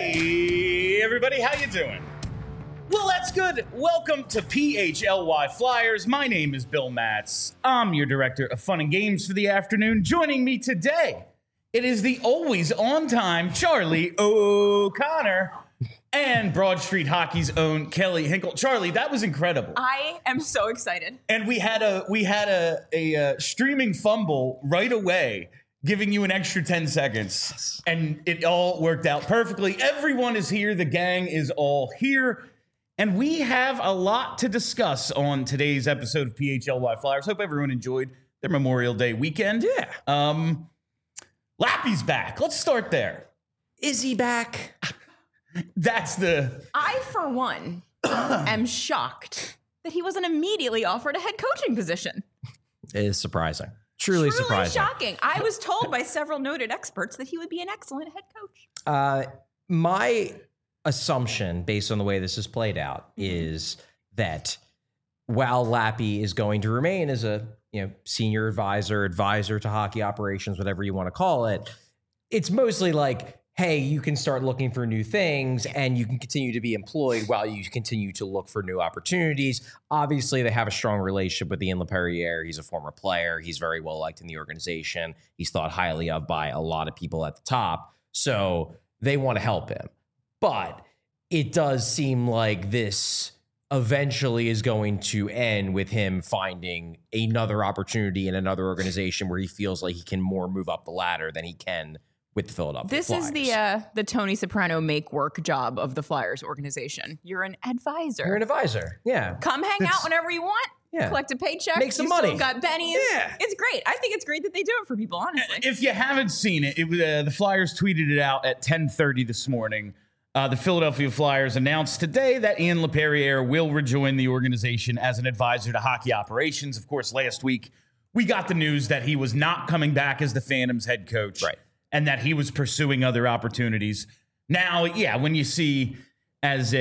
Hey, everybody, how you doing? Well, that's good. Welcome to PHLY Flyers. My name is Bill Matz. I'm your director of fun and games for the afternoon. Joining me today, it is the always on-time Charlie O'Connor and Broad Street Hockey's own Kelly Hinkle. Charlie, that was incredible. I am so excited. And we had a streaming fumble right away, giving you an extra 10 seconds, and it all worked out perfectly. Everyone is here. The gang is all here. And we have a lot to discuss on today's episode of PHLY Flyers. Hope everyone enjoyed their Memorial Day weekend. Yeah. Lappy's back. Let's start there. Is he back? I, for one, am shocked that he wasn't immediately offered a head coaching position. It is surprising. Truly surprising. Shocking. I was told by several noted experts that he would be an excellent head coach. My assumption, based on the way this is played out, is that while Lappy is going to remain as a senior advisor to hockey operations, whatever you want to call it, it's mostly like, hey, you can start looking for new things and you can continue to be employed while you continue to look for new opportunities. Obviously, they have a strong relationship with Ian LaPerriere. He's a former player. He's very well liked in the organization. He's thought highly of by a lot of people at the top. So they want to help him. But it does seem like this eventually is going to end with him finding another opportunity in another organization where he feels like he can more move up the ladder than he can with the Philadelphia Flyers. This is the Tony Soprano make work job of the Flyers organization. You're an advisor. You're an advisor. Yeah. Come hang out whenever you want. Yeah. Collect a paycheck. Make some you money. Still got bennies. Yeah. It's great. I think it's great that they do it for people, honestly. If you haven't seen it, the Flyers tweeted it out at 10:30 this morning. The Philadelphia Flyers announced today that Ian LaPerriere will rejoin the organization as an advisor to hockey operations. Of course, last week, we got the news that he was not coming back as the Phantoms head coach. Right. And that he was pursuing other opportunities. Now, yeah, when you see as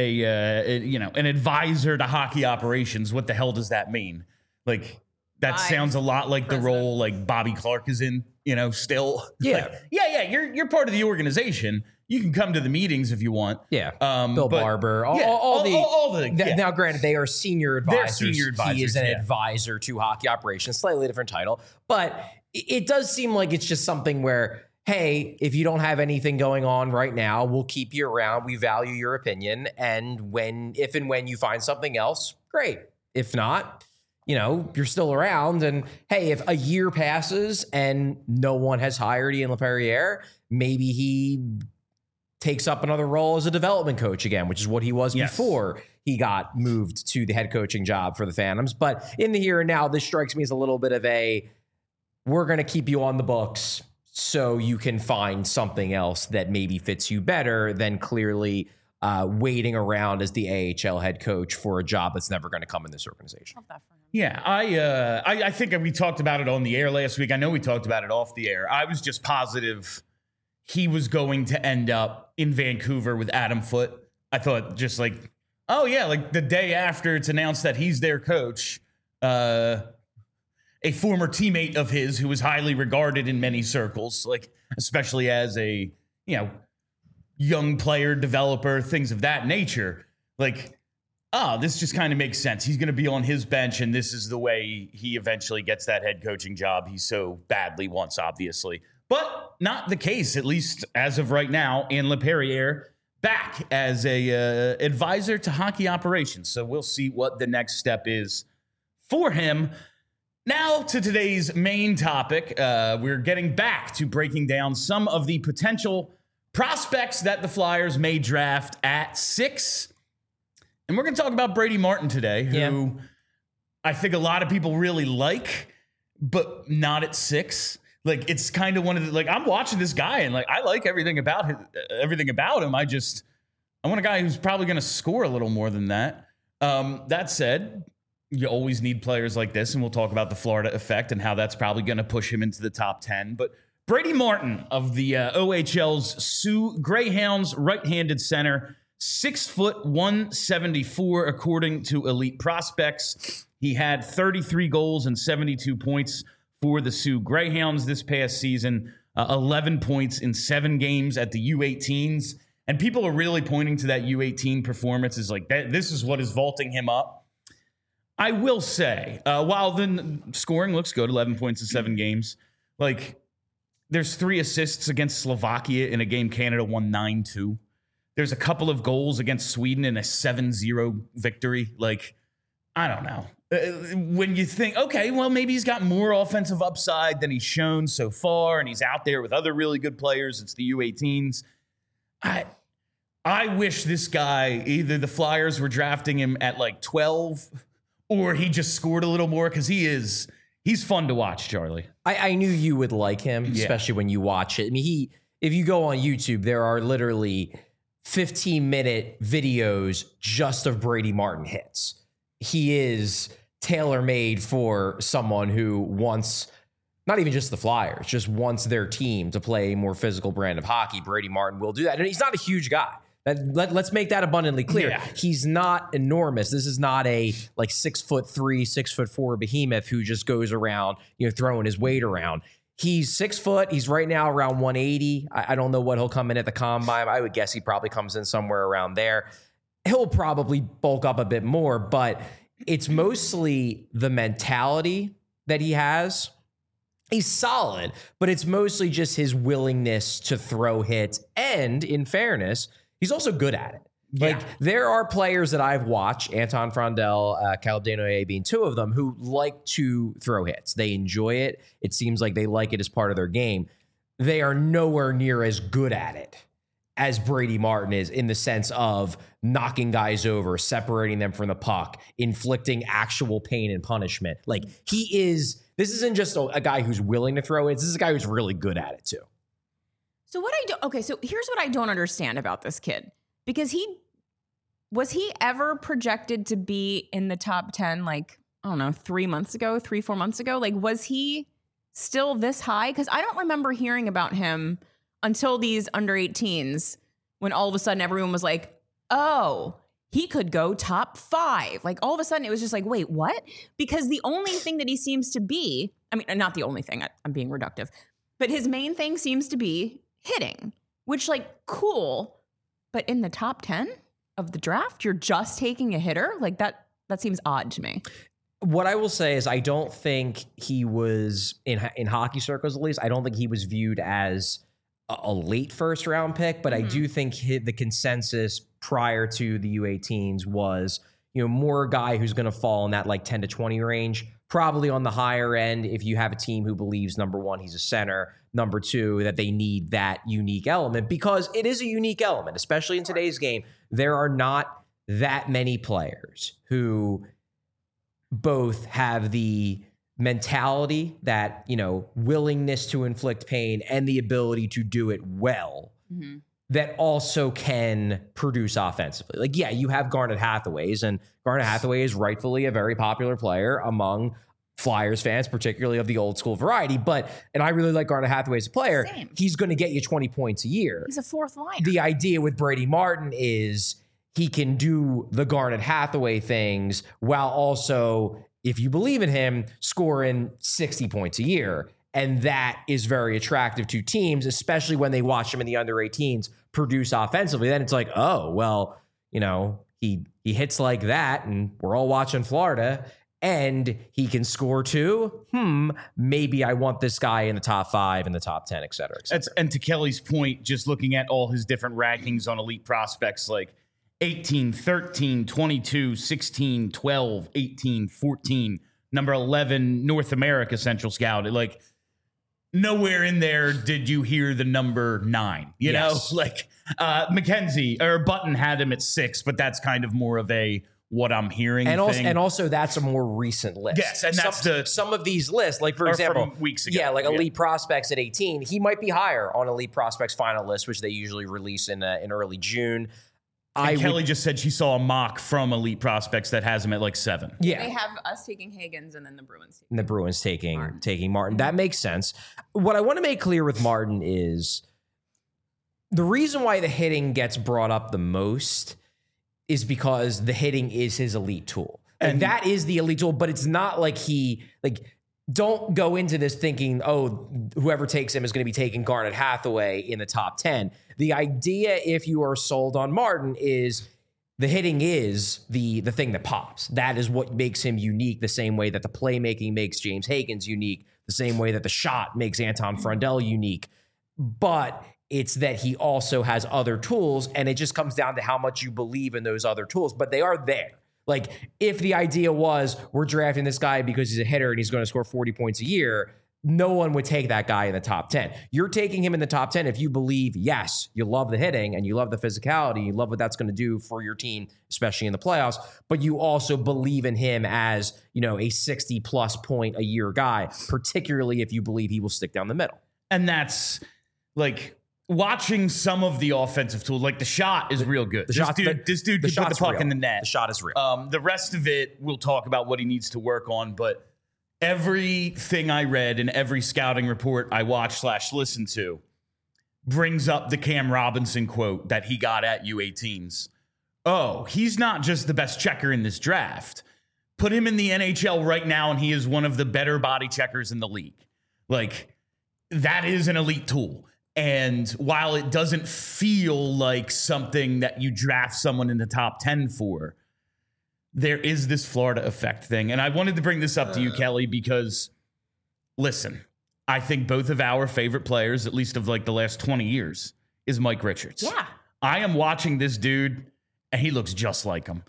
an advisor to hockey operations, what the hell does that mean? Like, that sounds a lot like the role like Bobby Clark is in, still. Yeah. Like, you're part of the organization. You can come to the meetings if you want. Yeah. Bill Barber. Now, granted, they are senior advisors. They're senior advisors. He is an advisor to hockey operations, slightly different title. But it does seem like it's just something where, hey, if you don't have anything going on right now, we'll keep you around. We value your opinion. And if and when you find something else, great. If not, you're still around. And hey, if a year passes and no one has hired Ian LaPerriere, maybe he takes up another role as a development coach again, which is what he was before he got moved to the head coaching job for the Phantoms. But in the here and now, this strikes me as a little bit of we're going to keep you on the books so you can find something else that maybe fits you better than clearly waiting around as the AHL head coach for a job that's never going to come in this organization. Yeah, I think we talked about it on the air last week. I know we talked about it off the air. I was just positive he was going to end up in Vancouver with Adam Foote. I thought just like the day after it's announced that he's their coach, a former teammate of his who was highly regarded in many circles, like especially as a young player, developer, things of that nature. Like, this just kind of makes sense. He's going to be on his bench, and this is the way he eventually gets that head coaching job he so badly wants, obviously. But not the case, at least as of right now. And LaPerriere back as a advisor to hockey operations. So we'll see what the next step is for him. Now to today's main topic. We're getting back to breaking down some of the potential prospects that the Flyers may draft at 6. And we're going to talk about Brady Martin today, who I think a lot of people really like, but not at 6. Like, it's kind of one of the, I'm watching this guy and I like everything about him. I want a guy who's probably going to score a little more than that. That said, you always need players like this, and we'll talk about the Florida effect and how that's probably going to push him into the top 10. But Brady Martin of the OHL's Sioux Greyhounds, right-handed center, 6', 174, according to Elite Prospects. He had 33 goals and 72 points for the Sioux Greyhounds this past season, 11 points in 7 games at the U18s. And people are really pointing to that U18 performance as like, this is what is vaulting him up. I will say, while the scoring looks good, 11 points in 7 games, like there's 3 assists against Slovakia in a game Canada won 9-2. There's a couple of goals against Sweden in a 7-0 victory. Like, I don't know. When you think, okay, well, maybe he's got more offensive upside than he's shown so far, and he's out there with other really good players. It's the U18s. I wish this guy, either the Flyers were drafting him at like 12 or he just scored a little more, because he's fun to watch, Charlie. I knew you would like him, especially when you watch it. I mean, if you go on YouTube, there are literally 15-minute videos just of Brady Martin hits. He is tailor-made for someone who wants, not even just the Flyers, just wants their team to play a more physical brand of hockey. Brady Martin will do that. And he's not a huge guy. Let's make that abundantly clear. Yeah. He's not enormous. This is not a like 6'3", 6'4" behemoth who just goes around, throwing his weight around. He's 6 foot. He's right now around 180. I don't know what he'll come in at the combine. I would guess he probably comes in somewhere around there. He'll probably bulk up a bit more, but it's mostly the mentality that he has. He's solid, but it's mostly just his willingness to throw hits. And in fairness, he's also good at it. Like, there are players that I've watched, Anton Frondel, Caleb Desnoyers being 2 of them, who like to throw hits. They enjoy it. It seems like they like it as part of their game. They are nowhere near as good at it as Brady Martin is, in the sense of knocking guys over, separating them from the puck, inflicting actual pain and punishment. Like, this isn't just a guy who's willing to throw it. This is a guy who's really good at it too. So so here's what I don't understand about this kid, because was he ever projected to be in the top 10, like, I don't know, 4 months ago? Like, was he still this high? Because I don't remember hearing about him until these under 18s, when all of a sudden everyone was like, oh, he could go top 5. Like, all of a sudden it was just like, wait, what? Because the only thing that he seems to be, I mean, not the only thing, I'm being reductive, but his main thing seems to be hitting, which, like, cool. But in the top 10 of the draft, you're just taking a hitter? Like, that seems odd to me. What I will say is, I don't think he was, in hockey circles at least, I don't think he was viewed as a late first round pick, but I do think the consensus prior to the U18s was, more a guy who's going to fall in that like 10 to 20 range, probably on the higher end if you have a team who believes, number one, he's a center, number two, that they need that unique element, because it is a unique element, especially in today's game. There are not that many players who both have the mentality, that, willingness to inflict pain, and the ability to do it well, that also can produce offensively. Like, yeah, you have Garnet Hathaways, and Garnet Hathaway is rightfully a very popular player among Flyers fans, particularly of the old school variety. And I really like Garnet Hathaway as a player. Same. He's going to get you 20 points a year. He's a 4th liner. The idea with Brady Martin is he can do the Garnet Hathaway things while also, if you believe in him, scoring 60 points a year. And that is very attractive to teams, especially when they watch him in the under 18s produce offensively. Then it's like, oh, well, he hits like that, and we're all watching Florida, and he can score too. Maybe I want this guy in the top 5, in the top 10, et cetera, et cetera. And to Kelly's point, just looking at all his different rankings on elite prospects, like 18, 13, 22, 16, 12, 18, 14, number 11, North America Central Scout. Like, nowhere in there did you hear the number 9, you know? Like, McKenzie or Button had him at 6, but that's kind of more of a what I'm hearing thing. And also that's a more recent list. Yes, and that's some of these lists, like, for example, from weeks ago. Yeah, like Elite Prospects at 18, he might be higher on Elite Prospects final list, which they usually release in early June. Kelly just said she saw a mock from Elite Prospects that has him at like 7. Yeah. They have us taking Higgins and then the Bruins. And the Bruins taking Martin. That makes sense. What I want to make clear with Martin is the reason why the hitting gets brought up the most is because the hitting is his elite tool. And that is the elite tool, but it's not like don't go into this thinking, oh, whoever takes him is going to be taking Garnet Hathaway in the top 10. The idea, if you are sold on Martin, is the hitting is the thing that pops. That is what makes him unique, the same way that the playmaking makes James Higgins unique, the same way that the shot makes Anton Frondell unique. But it's that he also has other tools, and it just comes down to how much you believe in those other tools. But they are there. Like, if the idea was we're drafting this guy because he's a hitter and he's going to score 40 points a year, no one would take that guy in the top 10. You're taking him in the top 10 if you believe, yes, you love the hitting and you love the physicality, you love what that's going to do for your team, especially in the playoffs, but you also believe in him as, a 60-plus point a year guy, particularly if you believe he will stick down the middle. And that's like watching some of the offensive tools, like the shot is real good. This dude can put the puck in the net. The shot is real. The rest of it, we'll talk about what he needs to work on. But everything I read and every scouting report I watched/listened to brings up the Cam Robinson quote that he got at U18s. Oh, he's not just the best checker in this draft. Put him in the NHL right now, and he is one of the better body checkers in the league. Like, that is an elite tool. And while it doesn't feel like something that you draft someone in the top 10 for, there is this Florida effect thing. And I wanted to bring this up to you, Kelly, because, listen, I think both of our favorite players, at least of like the last 20 years, is Mike Richards. Yeah. I am watching this dude, and he looks just like him.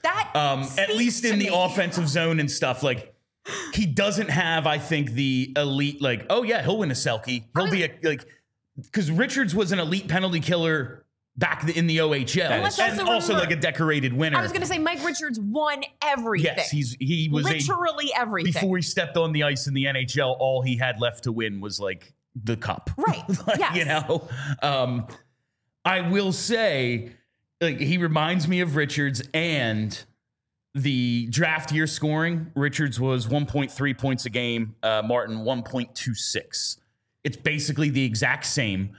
At least in the offensive zone and stuff. Like, he doesn't have, I think, the elite, like, oh, yeah, he'll win a Selke. He'll be because Richards was an elite penalty killer back in the OHL. And also like a decorated winner. I was going to say Mike Richards won everything. Yes, he was literally everything. Before he stepped on the ice in the NHL, all he had left to win was like the cup. Right. Yes. I will say, like, he reminds me of Richards, and the draft year scoring, Richards was 1.3 points a game, Martin 1.26. It's basically the exact same.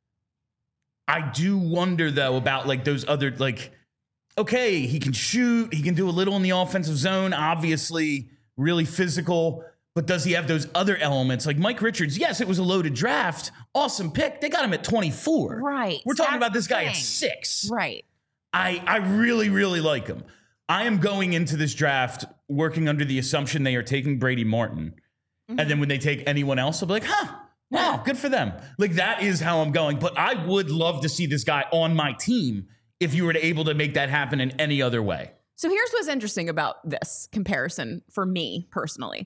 I do wonder, though, about like those other, like, okay, he can shoot, he can do a little in the offensive zone, obviously really physical, but does he have those other elements? Like Mike Richards, yes, it was a loaded draft, awesome pick. They got him at 24. Right. We're talking about this guy at 6. Right. I really, really like him. I am going into this draft working under the assumption they are taking Brady Martin. Mm-hmm. And then when they take anyone else, I'll be like, wow, good for them. Like, that is how I'm going. But I would love to see this guy on my team if you were able to make that happen in any other way. So here's what's interesting about this comparison for me personally.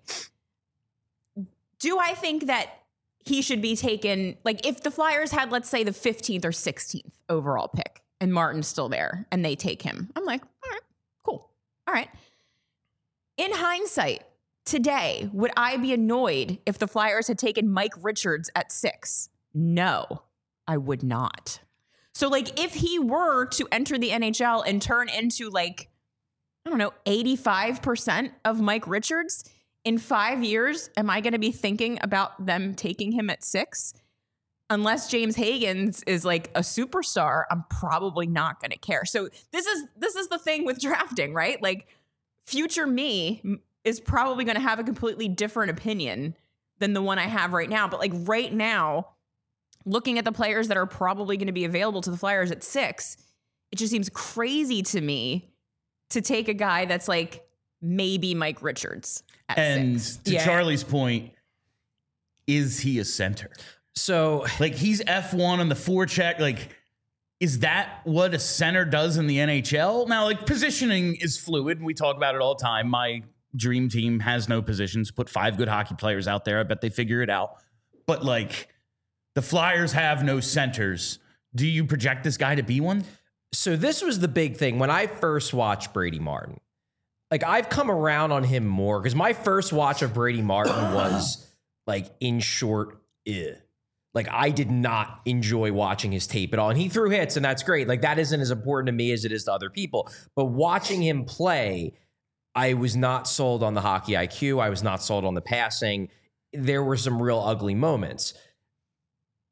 Do I think that he should be taken, like, if the Flyers had, let's say, the 15th or 16th overall pick and Martin's still there and they take him, I'm like, all right, cool. All right. In hindsight, today, would I be annoyed if the Flyers had taken Mike Richards at 6? No, I would not. So, like, if he were to enter the NHL and turn into, like, I don't know, 85% of Mike Richards, in 5 years, am I going to be thinking about them taking him at 6? Unless James Higgins is like a superstar, I'm probably not going to care. So this is the thing with drafting, right? Like, future me is probably going to have a completely different opinion than the one I have right now. But like right now, looking at the players that are probably going to be available to the Flyers at 6, it just seems crazy to me to take a guy that's like maybe Mike Richards at 6. To Charlie's point, is he a center? So, like, he's F1 on the forecheck. Like, is that what a center does in the NHL? Now, like, positioning is fluid, and we talk about it all the time. My dream team has no positions. Put 5 good hockey players out there. I bet they figure it out. But, like, the Flyers have no centers. Do you project this guy to be one? So this was the big thing. When I first watched Brady Martin, like, I've come around on him more because my first watch of Brady Martin was, like, in short, Like, I did not enjoy watching his tape at all. And he threw hits, and that's great. Like, that isn't as important to me as it is to other people. But watching him play, I was not sold on the hockey IQ. I was not sold on the passing. There were some real ugly moments.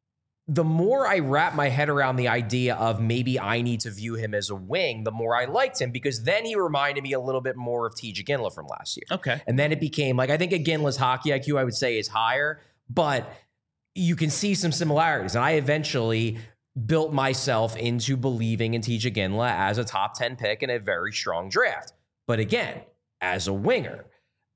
the more I wrap my head around the idea of maybe I need to view him as a wing, the more I liked him, because then he reminded me a little bit more of TJ Ginla from last year. Okay. And then it became like, I think Ginla's hockey IQ, I would say, is higher, but you can see some similarities. And I eventually built myself into believing in TJ Ginla as a top 10 pick in a very strong draft. But again, as a winger,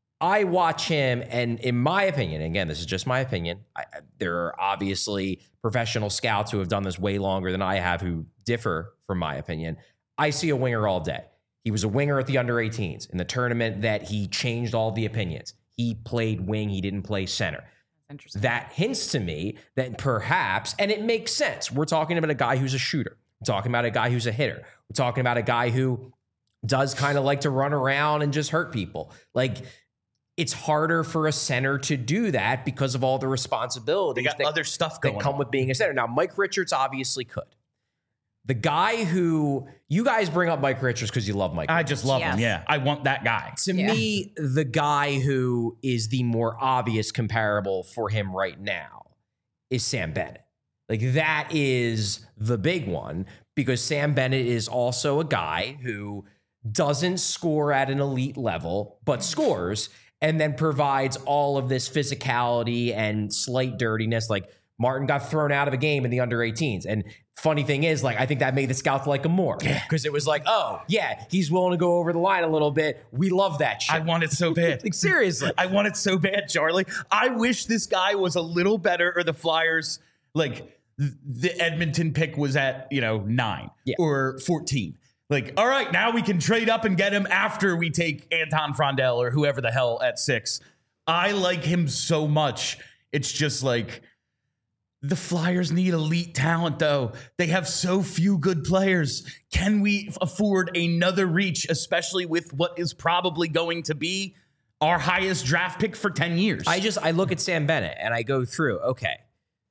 I watch him, and in my opinion, again, this is just my opinion, there are obviously professional scouts who have done this way longer than I have who differ from my opinion. I see a winger all day. He was a winger at the under-18s in the tournament that he changed all the opinions. He played wing. He didn't play center. Interesting. That hints to me that perhaps, and it makes sense, we're talking about a guy who's a shooter. We're talking about a guy who's a hitter. We're talking about a guy who does kind of like to run around and just hurt people. Like, it's harder for a center to do that because of all the responsibilities They got other stuff going that come with being a center. Now, Mike Richards obviously could. The guy who, you guys bring up Mike Richards because you love Mike I Richards. just love him. Yes. Yeah. I want that guy. To me, the guy who is the more obvious comparable for him right now is Sam Bennett. Like, that is the big one, because Sam Bennett is also a guy who doesn't score at an elite level, but scores and then provides all of this physicality and slight dirtiness. Like, Martin got thrown out of a game in the under-18s. And funny thing is, like, I think that made the scouts like him more, because it was like, oh, yeah, he's willing to go over the line a little bit. We love that shit. I want it so bad. Like, seriously. I want it so bad, Charlie. I wish this guy was a little better, or the Flyers, like, the Edmonton pick was at, 9 or 14. Like, all right, now we can trade up and get him after we take Anton Frondel or whoever the hell at 6. I like him so much. It's just like, the Flyers need elite talent, though. They have so few good players. Can we afford another reach, especially with what is probably going to be our highest draft pick for 10 years? I look at Sam Bennett and I go through, okay,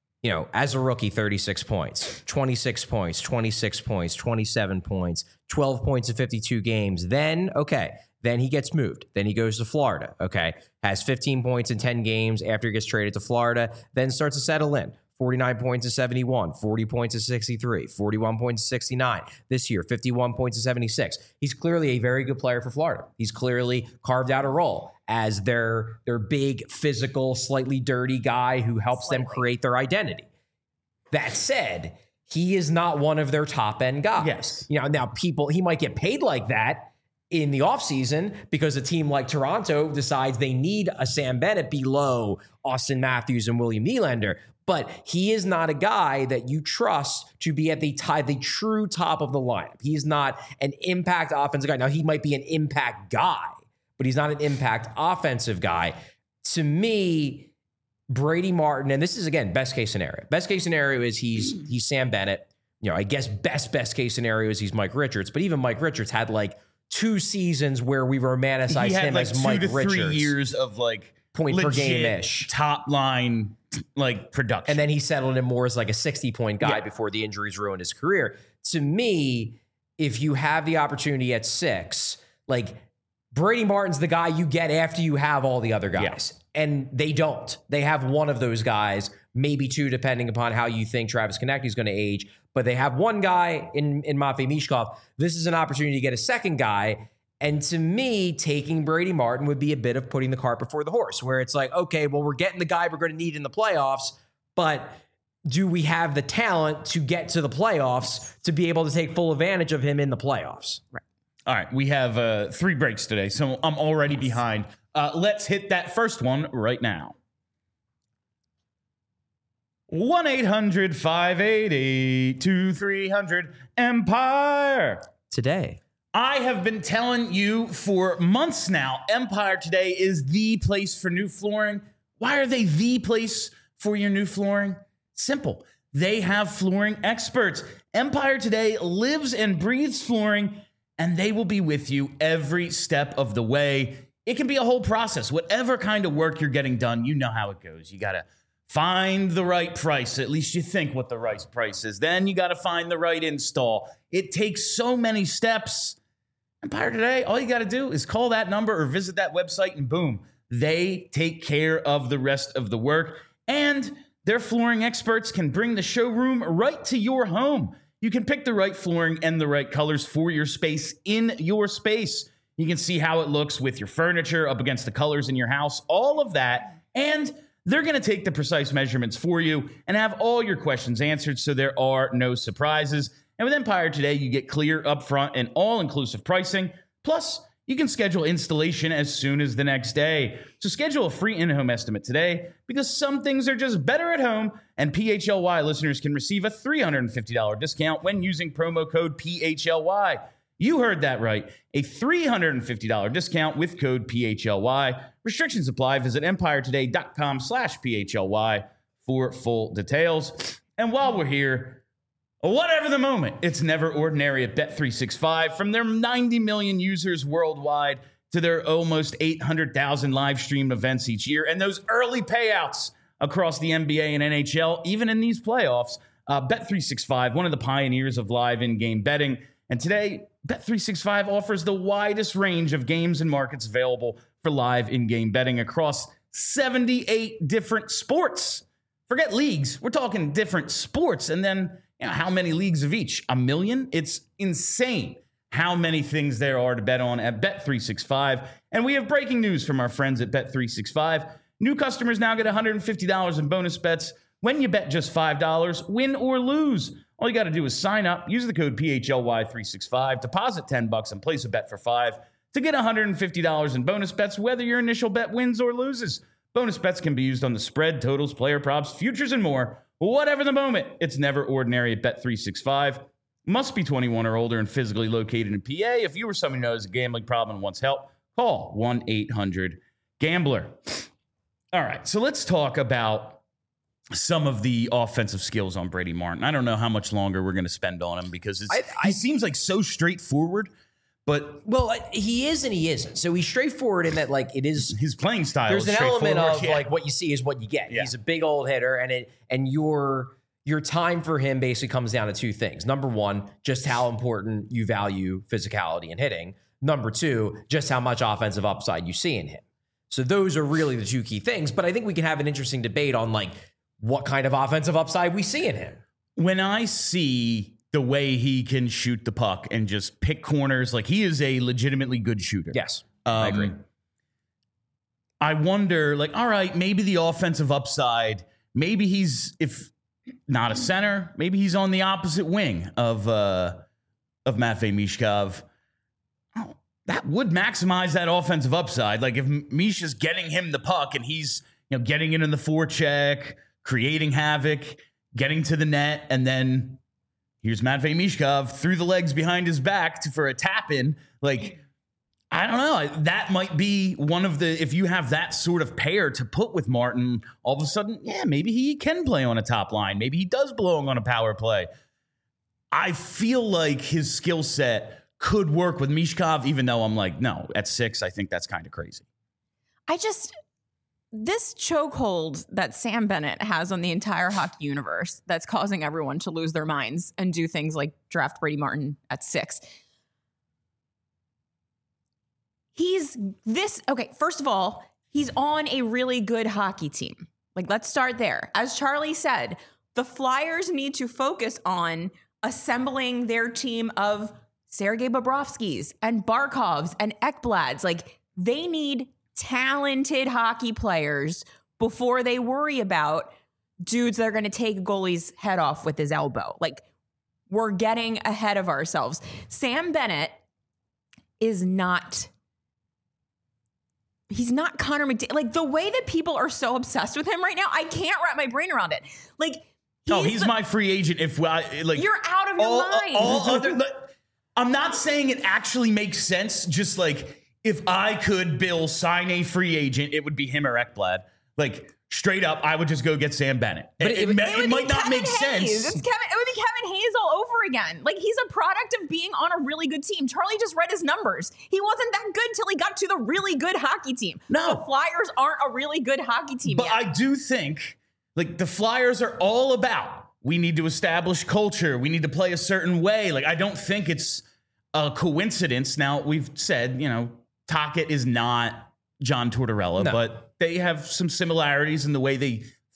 as a rookie, 36 points, 26 points, 26 points, 27 points, 12 points in 52 games. Then he gets moved. Then he goes to Florida, has 15 points in 10 games after he gets traded to Florida, then starts to settle in. 49 points to 71, 40 points to 63, 41 points to 69. This year, 51 points to 76. He's clearly a very good player for Florida. He's clearly carved out a role as their big, physical, slightly dirty guy who helps them create their identity. That said, he is not one of their top-end guys. Yes. Now he might get paid like that in the offseason because a team like Toronto decides they need a Sam Bennett below Austin Matthews and William Nylander. But he is not a guy that you trust to be at the true top of the lineup. He's not an impact offensive guy. Now, he might be an impact guy, but he's not an impact offensive guy. To me, Brady Martin, and this is, again, best case scenario. Best case scenario is he's Sam Bennett. I guess best case scenario is he's Mike Richards. But even Mike Richards had like 2 seasons where we romanticized him like as Mike 2 to 3 Richards. years of like point per legit game-ish. top line like production. And then he settled in more as like a 60-point guy before the injuries ruined his career. To me, if you have the opportunity at 6, like, Brady Martin's the guy you get after you have all the other guys. Yeah. And they don't. They have one of those guys, maybe 2, depending upon how you think Travis Konecny is going to age. But they have one guy in Matvei Michkov. This is an opportunity to get a second guy. And to me, taking Brady Martin would be a bit of putting the cart before the horse, where it's like, okay, well, we're getting the guy we're going to need in the playoffs, but do we have the talent to get to the playoffs to be able to take full advantage of him in the playoffs? Right. All right, we have 3 breaks today, so I'm already behind. Let's hit that first one right now. 1-800-588-2300 Empire. Today. I have been telling you for months now, Empire Today is the place for new flooring. Why are they the place for your new flooring? Simple. They have flooring experts. Empire Today lives and breathes flooring, and they will be with you every step of the way. It can be a whole process. Whatever kind of work you're getting done, you know how it goes. You got to find the right price. At least you think what the right price is. Then you got to find the right install. It takes so many steps. Empire Today, all you got to do is call that number or visit that website, and boom, they take care of the rest of the work. And Their flooring experts can bring the showroom right to your home. You can pick the right flooring and the right colors for your space in your space. You can see how it looks with your furniture up against the colors in your house, all of that. And they're going to take the precise measurements for you and have all your questions answered so there are no surprises. And with Empire Today, you get clear, upfront, and all-inclusive pricing. Plus, you can schedule installation as soon as the next day. So schedule a free in-home estimate today because some things are just better at home, and PHLY listeners can receive a $350 discount when using promo code PHLY. You heard that right. A $350 discount with code PHLY. Restrictions apply. Visit empiretoday.com/PHLY for full details. And while we're here, whatever the moment, it's never ordinary at Bet365. From their 90 million users worldwide to their almost 800,000 live streamed events each year and those early payouts across the NBA and NHL, even in these playoffs, Bet365, one of the pioneers of live in-game betting. And today, Bet365 offers the widest range of games and markets available for live in-game betting across 78 different sports. Forget leagues. We're talking different sports. And then, how many leagues of each? 1 million? It's insane how many things there are to bet on at Bet365. And we have breaking news from our friends at Bet365. New customers now get $150 in bonus bets when you bet just $5, win or lose. All you got to do is sign up, use the code PHLY365, deposit $10 and place a bet for $5 to get $150 in bonus bets, whether your initial bet wins or loses. Bonus bets can be used on the spread, totals, player props, futures, and more. Whatever the moment, it's never ordinary at Bet365. Must be 21 or older and physically located in PA. If you or someone who knows a gambling problem and wants help, call 1-800-GAMBLER. All right, so let's talk about some of the offensive skills on Brady Martin. I don't know how much longer we're going to spend on him because he seems like so straightforward, but he is and he isn't. So he's straightforward in that, like, it is his playing style. There's an element of like what you see is what you get. Yeah. He's a big old hitter, and your time for him basically comes down to two things. Number one, just how important you value physicality and hitting. Number two, just how much offensive upside you see in him. So those are really the two key things. But I think we can have an interesting debate on like what kind of offensive upside we see in him. When I see the way he can shoot the puck and just pick corners, like he is a legitimately good shooter. Yes, I agree. I wonder, like, all right, maybe the offensive upside, maybe he's, if not a center, maybe he's on the opposite wing of Matvei Michkov. Oh, that would maximize that offensive upside. Like if Misha's getting him the puck and he's, getting it in the forecheck, creating havoc, getting to the net, and then here's Matvei Michkov through the legs behind his back for a tap in. Like, I don't know. That might be one of the, if you have that sort of pair to put with Martin, all of a sudden, maybe he can play on a top line. Maybe he does belong on a power play. I feel like his skill set could work with Michkov, even though I'm like, no, at 6, I think that's kind of crazy. This chokehold that Sam Bennett has on the entire hockey universe that's causing everyone to lose their minds and do things like draft Brady Martin at 6. First of all, he's on a really good hockey team. Like, let's start there. As Charlie said, the Flyers need to focus on assembling their team of Sergei Bobrovskys and Barkovs and Ekblads. Like, they need talented hockey players before they worry about dudes that are going to take a goalie's head off with his elbow. Like, we're getting ahead of ourselves. Sam Bennett is not... He's not Connor McDavid. Like, the way that people are so obsessed with him right now, I can't wrap my brain around it. Like, he's my free agent. If you're out of your mind. I'm not saying it actually makes sense. Just like, if I could, Bill, sign a free agent, it would be him or Ekblad. Like, straight up, I would just go get Sam Bennett. But it might not make sense. It would be Kevin Hayes all over again. Like, he's a product of being on a really good team. Charlie just read his numbers. He wasn't that good till he got to the really good hockey team. No. The Flyers aren't a really good hockey team yet. But I do think, like, the Flyers are all about, we need to establish culture. We need to play a certain way. Like, I don't think it's a coincidence. Now, we've said, Tocchet is not John Tortorella, but they have some similarities in the way they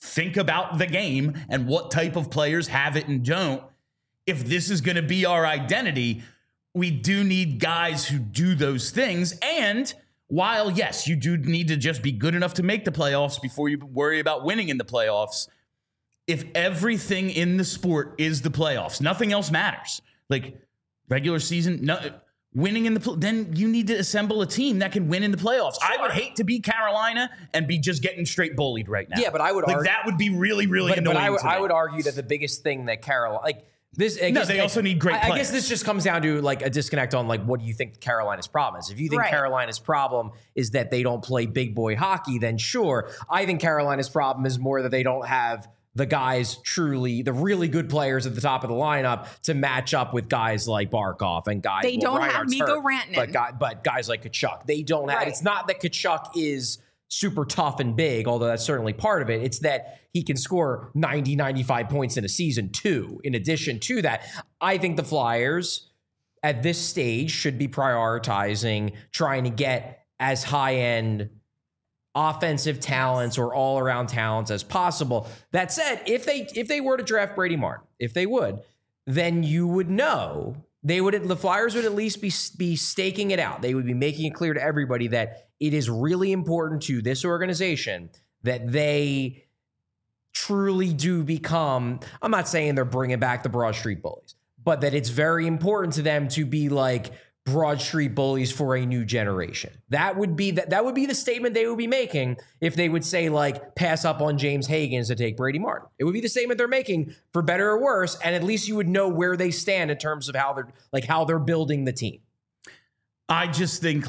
think about the game and what type of players have it and don't. If this is going to be our identity, we do need guys who do those things. And while, yes, you do need to just be good enough to make the playoffs before you worry about winning in the playoffs, if everything in the sport is the playoffs, nothing else matters. Like regular season, winning in then you need to assemble a team that can win in the playoffs. Sure. I would hate to be Carolina and be just getting straight bullied right now. Yeah, but I would argue that would be really, really annoying. But I would argue that the biggest thing that Carolina, they also need great players. I guess this just comes down to like a disconnect on like what do you think Carolina's problem is. If you think Carolina's problem is that they don't play big boy hockey, then sure. I think Carolina's problem is more that they don't have the guys the really good players at the top of the lineup to match up with guys like Barkov and guys. They don't have Mikko Rantanen. But guys like Tkachuk, they don't have. It's not that Tkachuk is super tough and big, although that's certainly part of it. It's that he can score 90, 95 points in a season too. In addition to that, I think the Flyers at this stage should be prioritizing trying to get as high-end offensive talents or all-around talents as possible. That said, if they were to draft Brady Martin, if they would, then you would know the Flyers would at least be staking it out. They would be making it clear to everybody that it is really important to this organization that they truly do become, I'm not saying they're bringing back the Broad Street Bullies, but that it's very important to them to be like Broad Street Bullies for a new generation. That would be the statement they would be making if they would say like pass up on James Higgins to take Brady Martin. It would be the statement they're making for better or worse, and at least you would know where they stand in terms of how they're building the team. I just think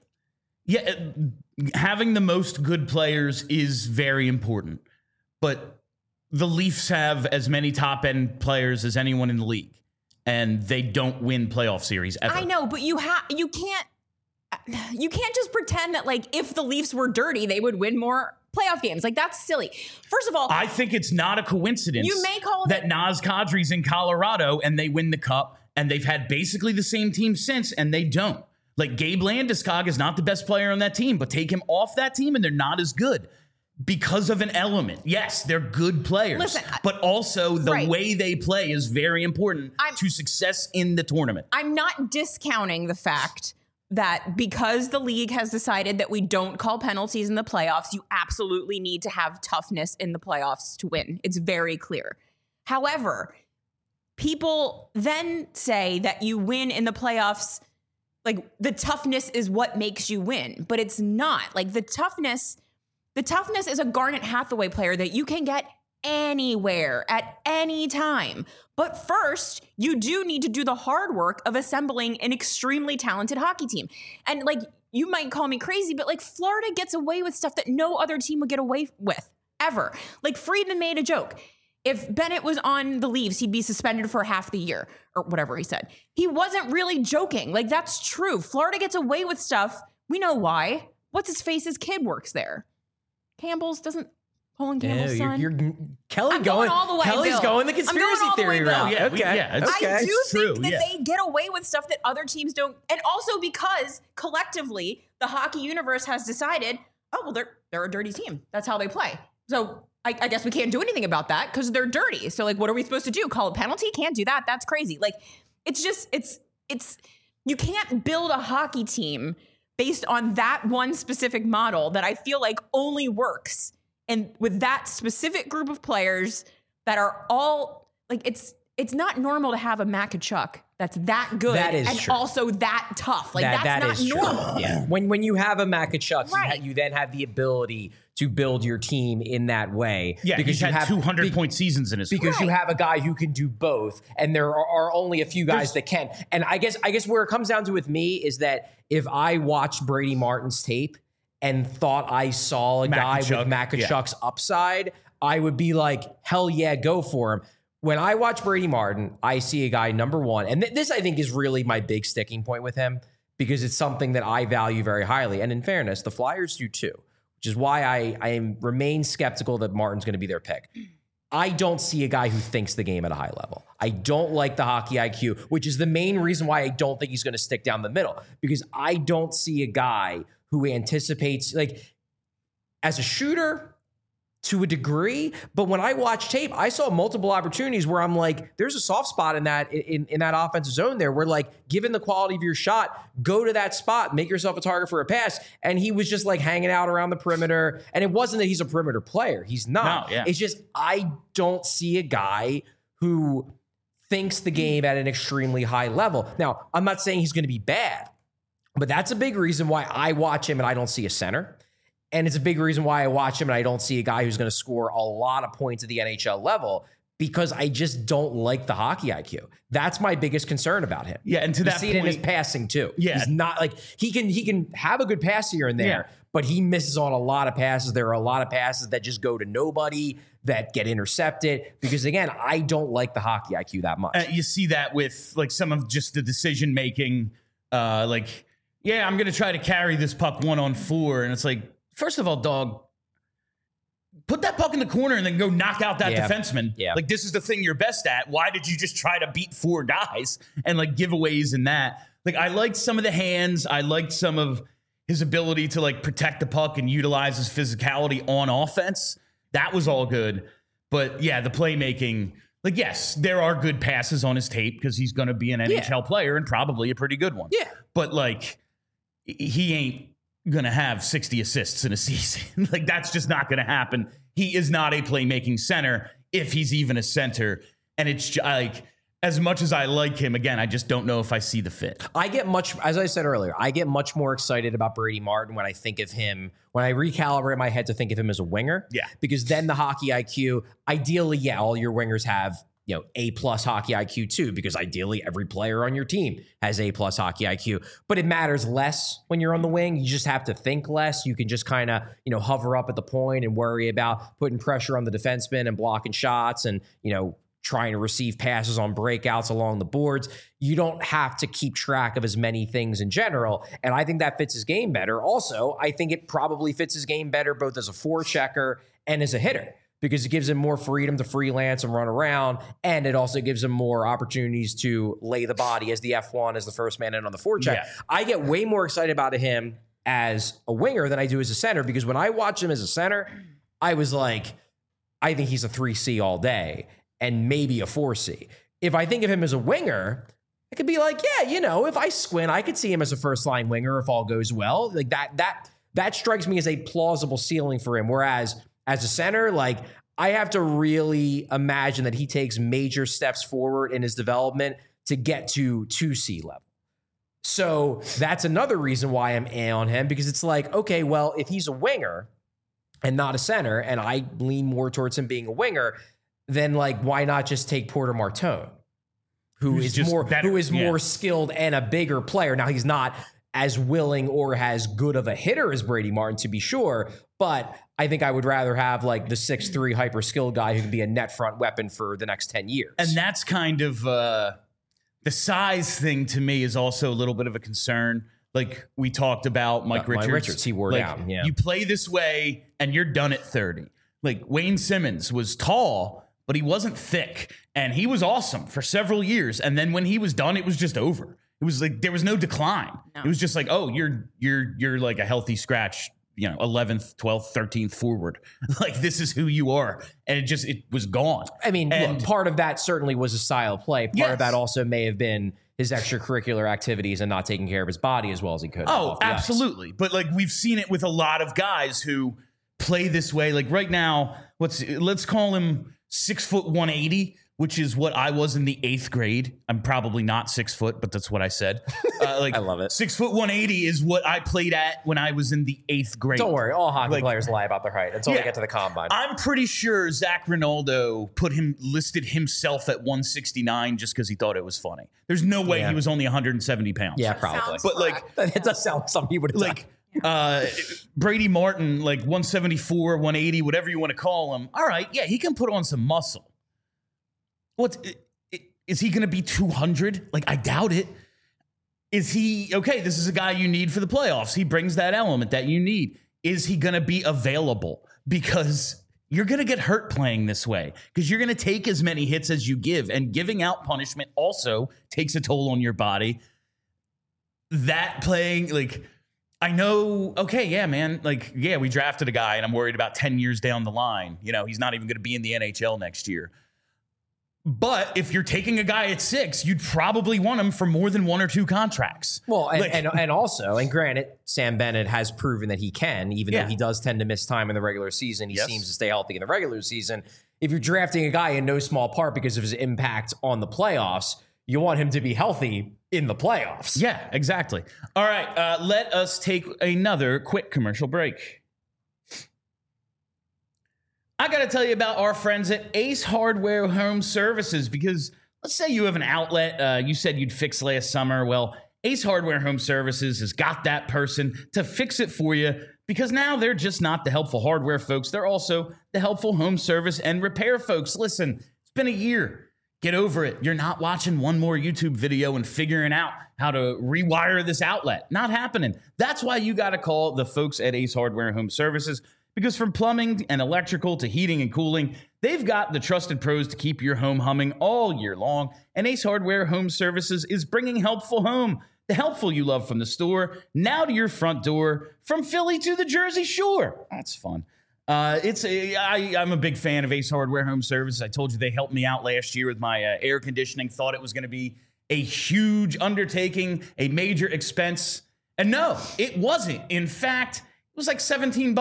having the most good players is very important, but the Leafs have as many top end players as anyone in the league. And they don't win playoff series ever. I know, but you can't just pretend that like if the Leafs were dirty, they would win more playoff games. Like that's silly. First of all, I think it's not a coincidence you may call that Naz Kadri's in Colorado and they win the cup and they've had basically the same team since and they don't. Like Gabe Landeskog is not the best player on that team, but take him off that team and they're not as good. Because of an element. Yes, they're good players. But also the way they play is very important to success in the tournament. I'm not discounting the fact that because the league has decided that we don't call penalties in the playoffs, you absolutely need to have toughness in the playoffs to win. It's very clear. However, people then say that you win in the playoffs, like the toughness is what makes you win. But it's not. Like the toughness is a Garnet Hathaway player that you can get anywhere at any time. But first, you do need to do the hard work of assembling an extremely talented hockey team. And like, you might call me crazy, but like Florida gets away with stuff that no other team would get away with ever. Like Friedman made a joke. If Bennett was on the Leafs, he'd be suspended for half the year or whatever he said. He wasn't really joking. Like that's true. Florida gets away with stuff. We know why. What's his face's kid works there. Campbell's son. Kelly's going the conspiracy theory route. Yeah, okay. I do think that they get away with stuff that other teams don't. And also because collectively the hockey universe has decided, oh, well, they're a dirty team. That's how they play. So I guess we can't do anything about that because they're dirty. So like, what are we supposed to do? Call a penalty? Can't do that. That's crazy. Like, it's you can't build a hockey team based on that one specific model that I feel like only works and with that specific group of players that are all like, it's not normal to have a Matt Tkachuk that's that good and true. Also that tough. Like that's not normal. Yeah. When you have a Matt Tkachuk, you then have the ability to build your team in that way. Yeah, because you have 200-point seasons in his because you have a guy who can do both, and there are only a few guys that can. And I guess where it comes down to with me is that if I watched Brady Martin's tape and thought I saw a guy with Matt Tkachuk's upside, I would be like, hell yeah, go for him. When I watch Brady Martin, I see a guy, number one, and this I think is really my big sticking point with him because it's something that I value very highly. And in fairness, the Flyers do too, which is why I remain skeptical that Martin's going to be their pick. I don't see a guy who thinks the game at a high level. I don't like the hockey IQ, which is the main reason why I don't think he's going to stick down the middle, because I don't see a guy who anticipates, like, as a shooter, to a degree, but when I watched tape, I saw multiple opportunities where I'm like, there's a soft spot in that offensive zone there where, like, given the quality of your shot, go to that spot, make yourself a target for a pass. And he was just like hanging out around the perimeter. And it wasn't that he's a perimeter player. He's not. No, yeah. It's just I don't see a guy who thinks the game at an extremely high level. Now, I'm not saying he's going to be bad, but that's a big reason why I watch him and I don't see a center. And it's a big reason why I watch him and I don't see a guy who's going to score a lot of points at the NHL level, because I just don't like the hockey IQ. That's my biggest concern about him. Yeah, and to that see it in his passing too. Yeah. He's not like he can have a good pass here and there, but he misses on a lot of passes. There are a lot of passes that just go to nobody, that get intercepted, because again, I don't like the hockey IQ that much. You see that with like some of just the decision making, I'm going to try to carry this puck 1-on-4, and it's like, first of all, dog, put that puck in the corner and then go knock out that defenseman. Yeah. Like, this is the thing you're best at. Why did you just try to beat 4 guys and like giveaways in that? Like, I liked some of the hands. I liked some of his ability to like protect the puck and utilize his physicality on offense. That was all good. But yeah, the playmaking, like, yes, there are good passes on his tape because he's going to be an NHL player and probably a pretty good one. Yeah. But like, he ain't gonna have 60 assists in a season. Like, that's just not gonna happen. He is not a playmaking center, if he's even a center. And it's like, as much as I like him, again, I just don't know if I see the fit. As I said earlier, I get much more excited about Brady Martin when I think of him, when I recalibrate my head to think of him as a winger. Yeah. Because then the hockey IQ, ideally, all your wingers have, A+ hockey IQ too, because ideally every player on your team has A+ hockey IQ, but it matters less when you're on the wing. You just have to think less. You can just kind of, hover up at the point and worry about putting pressure on the defenseman and blocking shots and, trying to receive passes on breakouts along the boards. You don't have to keep track of as many things in general. And I think that fits his game better. Also, I think it probably fits his game better both as a forechecker and as a hitter, because it gives him more freedom to freelance and run around. And it also gives him more opportunities to lay the body as the F1, as the first man in on the forecheck. Yeah. I get way more excited about him as a winger than I do as a center, because when I watch him as a center, I was like, I think he's a 3C all day and maybe a 4C. If I think of him as a winger, it could be like, if I squint, I could see him as a first line winger if all goes well. Like that strikes me as a plausible ceiling for him. Whereas as a center, like, I have to really imagine that he takes major steps forward in his development to get to 2C level. So that's another reason why I'm on him, because it's like, okay, well, if he's a winger and not a center, and I lean more towards him being a winger, then like, why not just take Porter Martone, who is more skilled and a bigger player? Now, he's not as willing or as good of a hitter as Brady Martin, to be sure, but I think I would rather have like the 6'3" hyper skilled guy who can be a net front weapon for the next 10 years. And that's kind of the size thing to me is also a little bit of a concern. Like we talked about Mike Richards. He wore down. Yeah. You play this way and you're done at 30. Like Wayne Simmons was tall, but he wasn't thick, and he was awesome for several years. And then when he was done, it was just over. It was like there was no decline. No. It was just like, oh, you're like a healthy scratch, 11th, 12th, 13th forward. Like, this is who you are. And it was gone. I mean, look, part of that certainly was a style of play. Part of that also may have been his extracurricular activities and not taking care of his body as well as he could. Oh, absolutely. But like, we've seen it with a lot of guys who play this way. Like right now, let's call him 6', 180, which is what I was in the 8th grade. I'm probably not 6 foot, but that's what I said. I love it. 6', 180 is what I played at when I was in the 8th grade. Don't worry, all hockey players lie about their height until they get to the combine. I'm pretty sure Zach Rinaldo listed himself at 169 just because he thought it was funny. There's no way he was only 170 pounds. Yeah, probably. Sounds but like, it does sound like something he would have like. Brady Martin, like 174, 180, whatever you want to call him. All right, yeah, he can put on some muscle. Is he going to be 200? Like, I doubt it. Is he, okay, this is a guy you need for the playoffs. He brings that element that you need. Is he going to be available? Because you're going to get hurt playing this way, because you're going to take as many hits as you give, and giving out punishment also takes a toll on your body. That playing, like, I know, okay, yeah, man. Like, yeah, we drafted a guy and I'm worried about 10 years down the line. You know, he's not even going to be in the NHL next year. But if you're taking a guy at 6, you'd probably want him for more than 1 or 2 contracts. Well, Like- and also, and granted, Sam Bennett has proven that he can, even though he does tend to miss time in the regular season. He seems to stay healthy in the regular season. If you're drafting a guy in no small part because of his impact on the playoffs, you want him to be healthy in the playoffs. Yeah, exactly. All right, let us take another quick commercial break. I got to tell you about our friends at Ace Hardware Home Services, because let's say you have an outlet you said you'd fix last summer. Well, Ace Hardware Home Services has got that person to fix it for you, because now they're just not the helpful hardware folks. They're also the helpful home service and repair folks. Listen, it's been a year. Get over it. You're not watching one more YouTube video and figuring out how to rewire this outlet. Not happening. That's why you got to call the folks at Ace Hardware Home Services, because from plumbing and electrical to heating and cooling, they've got the trusted pros to keep your home humming all year long. And Ace Hardware Home Services is bringing helpful home, the helpful you love from the store, now to your front door, from Philly to the Jersey Shore. That's fun. I'm a big fan of Ace Hardware Home Services. I told you they helped me out last year with my air conditioning. Thought it was going to be a huge undertaking, a major expense. And no, it wasn't. In fact, it was like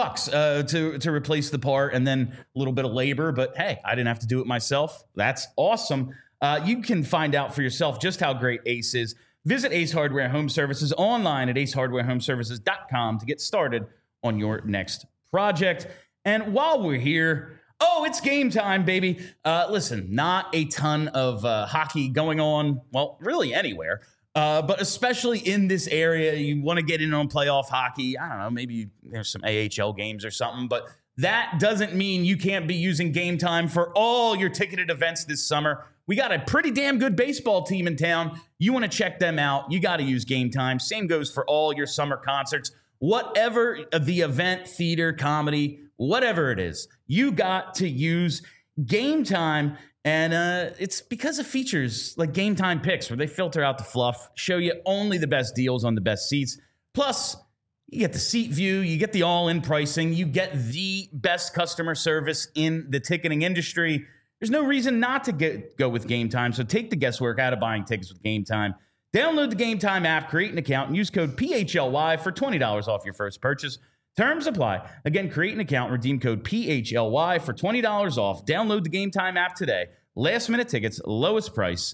$17 to replace the part, and then a little bit of labor. But hey, I didn't have to do it myself. That's awesome. You can find out for yourself just how great Ace is. Visit Ace Hardware Home Services online at acehardwarehomeservices.com to get started on your next project. And while we're here, it's game time, baby. Listen, not a ton of hockey going on, well, really anywhere. But especially in this area, you want to get in on playoff hockey. I don't know, maybe there's some AHL games or something, but that doesn't mean you can't be using Game Time for all your ticketed events this summer. We got a pretty damn good baseball team in town. You want to check them out, you got to use Game Time. Same goes for all your summer concerts. Whatever the event, theater, comedy, whatever it is, you got to use Game Time. And it's because of features like Game Time Picks, where they filter out the fluff, show you only the best deals on the best seats. Plus, you get the seat view, you get the all-in pricing, you get the best customer service in the ticketing industry. There's no reason not to go with Game Time, so take the guesswork out of buying tickets with Game Time. Download the Game Time app, create an account, and use code PHLY for $20 off your first purchase. Terms apply. Again, create an account, redeem code PHLY for $20 off. Download the Game Time app today. Last minute tickets, lowest price,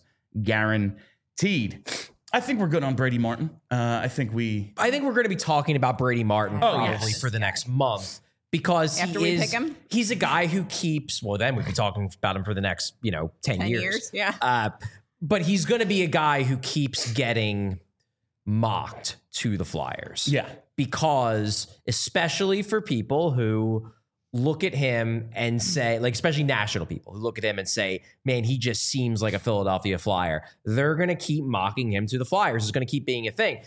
guaranteed. I think we're good on Brady Martin. I think we're going to be talking about Brady Martin probably for the next month, because After we pick him? He's a guy who keeps, well, then we'd be talking about him for the next, 10 years. Yeah. But he's going to be a guy who keeps getting mocked to the Flyers. Yeah. Because especially for people who look at him and say, like, especially national people who look at him and say, man, he just seems like a Philadelphia Flyer. They're going to keep mocking him to the Flyers. It's going to keep being a thing.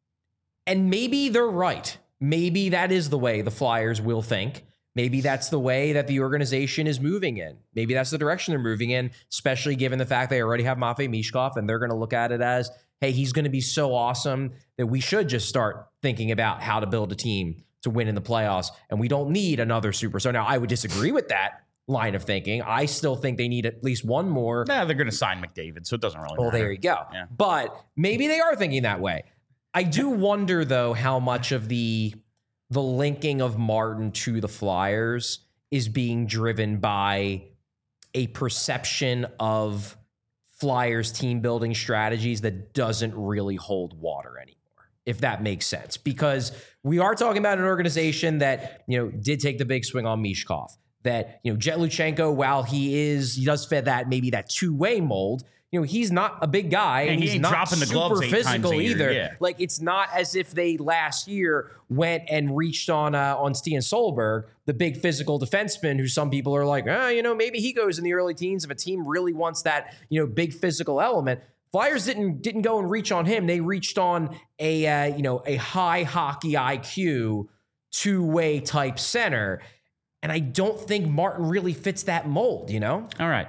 And maybe they're right. Maybe that is the way the Flyers will think. Maybe that's the way that the organization is moving in. Maybe that's the direction they're moving in, especially given the fact they already have Matvei Mishkov, and they're going to look at it as, hey, he's going to be so awesome that we should just start thinking about how to build a team to win in the playoffs, and we don't need another superstar. Now, I would disagree with that line of thinking. I still think they need at least one more. Nah, they're going to sign McDavid, so it doesn't really matter. Well, there you go. Yeah. But maybe they are thinking that way. I do wonder, though, how much of the linking of Martin to the Flyers is being driven by a perception of Flyers team building strategies that doesn't really hold water anymore, if that makes sense. Because we are talking about an organization that, did take the big swing on Mishkov, that, Jet Luchenko, while he does fit that, maybe that two-way mold, he's not a big guy, and he's not dropping the gloves super 8 times a physical year, either. yeah. Like, it's not as if they last year went and reached on Stian Solberg, the big physical defenseman, who some people are like, maybe he goes in the early teens if a team really wants that, big physical element. Flyers didn't go and reach on him. They reached on a high hockey IQ, two-way type center. And I don't think Martin really fits that mold, All right.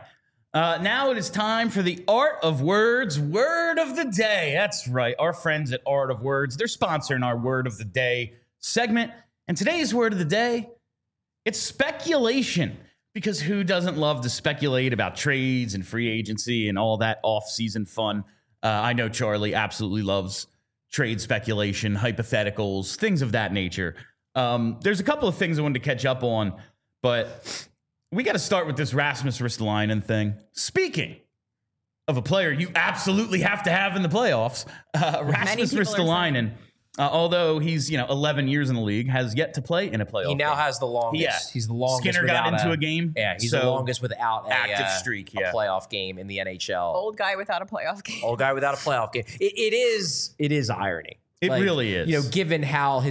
Now it is time for the Art of Words word of the day. That's right. Our friends at Art of Words, they're sponsoring our word of the day segment. And today's word of the day, it's speculation. Because who doesn't love to speculate about trades and free agency and all that off-season fun? I know Charlie absolutely loves trade speculation, hypotheticals, things of that nature. There's a couple of things I wanted to catch up on, but we got to start with this Rasmus Ristolainen thing. Speaking of a player you absolutely have to have in the playoffs, Rasmus Ristolainen, although he's 11 years in the league, has yet to play in a playoff. He now has the longest. Yeah. He's the longest. Skinner got into a game. Yeah, he's the longest without active streak. a playoff game in the NHL. Old guy without a playoff game. Old guy without a playoff game. It is irony. It really is. Given how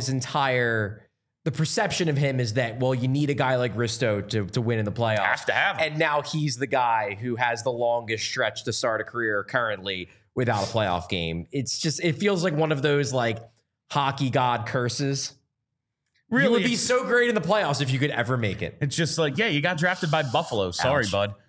the perception of him is that, well, you need a guy like Risto to win in the playoffs. Have to have him. And now he's the guy who has the longest stretch to start a career currently without a playoff game. It feels like one of those hockey god curses. Really, you would be so great in the playoffs if you could ever make it. It's just you got drafted by Buffalo. Sorry, Ouch. bud.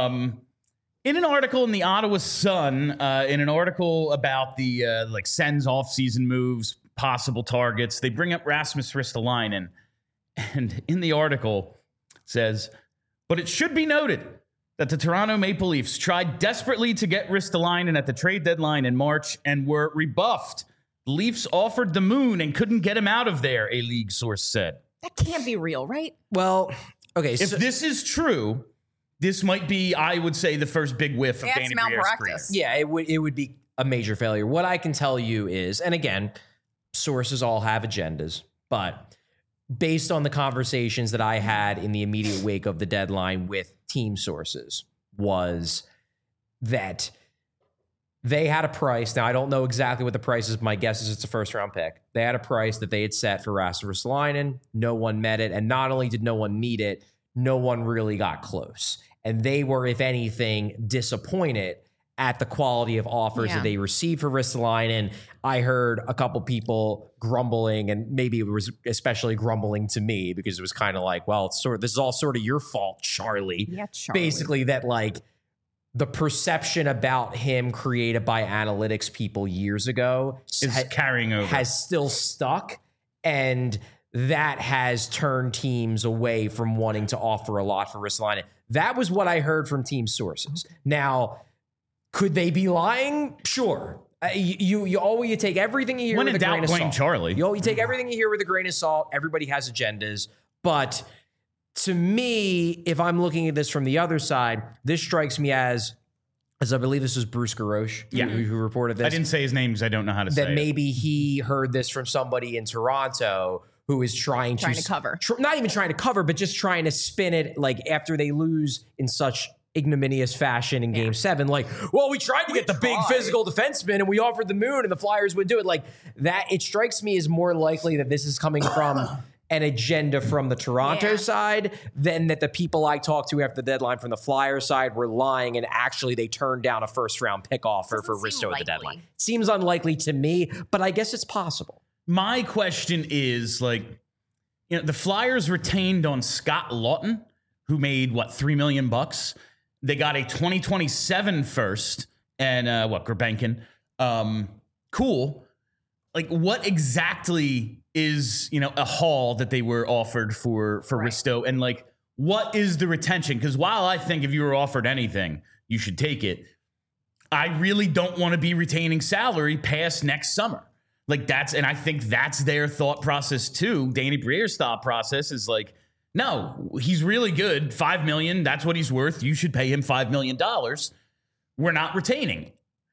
In an article in the Ottawa Sun, in an article about the Sens off-season moves, possible targets, they bring up Rasmus Ristolainen. And in the article, it says, but it should be noted that the Toronto Maple Leafs tried desperately to get Ristolainen at the trade deadline in March and were rebuffed. The Leafs offered the moon and couldn't get him out of there, a league source said. That can't be real, right? Well, okay. If this is true, this might be, I would say, the first big whiff of Danny Briere's career. Yeah, it would be a major failure. What I can tell you is, and again, sources all have agendas, but based on the conversations that I had in the immediate wake of the deadline with team sources, was that they had a price. Now, I don't know exactly what the price is. My guess is it's a first-round pick. They had a price that they had set for Rasmus Ristolainen. No one met it. And not only did no one meet it, no one really got close. And they were, if anything, disappointed at the quality of offers that they received for Ristolainen. I heard a couple people grumbling, and maybe it was especially grumbling to me because it was kind of like, well, this is all sort of your fault, Charlie. Yeah, Charlie. Basically, that the perception about him created by analytics people years ago is carrying over, has still stuck, and that has turned teams away from wanting to offer a lot for Ristolainen. That was what I heard from team sources. Now, could they be lying? Sure. You take everything you hear with a grain of salt. Charlie. You take everything you hear with a grain of salt. Everybody has agendas, but to me, if I'm looking at this from the other side, this strikes me as I believe this was Bruce Garoche who reported this. I didn't say his name because I don't know how to say it. That maybe he heard this from somebody in Toronto who is trying to cover. Not even trying to cover, but just trying to spin it after they lose in such ignominious fashion in Game 7. Well, we tried to get the big physical defenseman and we offered the moon and the Flyers would do it. That, it strikes me as more likely that this is coming from an agenda from the Toronto side than that the people I talked to after the deadline from the Flyers side were lying and actually they turned down a first-round pick offer for Risto at the deadline. Seems unlikely to me, but I guess it's possible. My question is, the Flyers retained on Scott Lawton, who made, $3 million? They got a 2027 first and, Gurbenkin. Cool. What exactly is, a haul that they were offered for Risto? And what is the retention? Because while I think if you were offered anything, you should take it, I really don't want to be retaining salary past next summer. And I think that's their thought process too. Danny Briere's thought process is no, he's really good. $5 million, that's what he's worth. You should pay him $5 million. We're not retaining.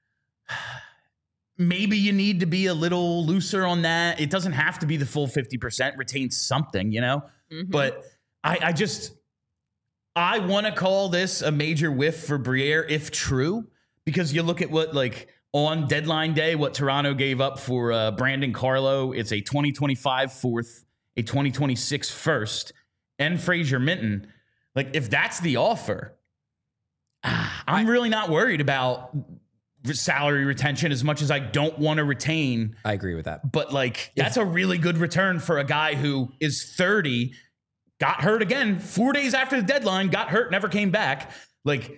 Maybe you need to be a little looser on that. It doesn't have to be the full 50%. Retain something, Mm-hmm. But I want to call this a major whiff for Briere if true, because you look at what on deadline day, what Toronto gave up for Brandon Carlo. It's a 2025 fourth, a 2026 first, and Fraser Minton. If that's the offer, I'm really not worried about salary retention as much as I don't want to retain. I agree with that. But that's a really good return for a guy who is 30, got hurt again 4 days after the deadline, got hurt, never came back.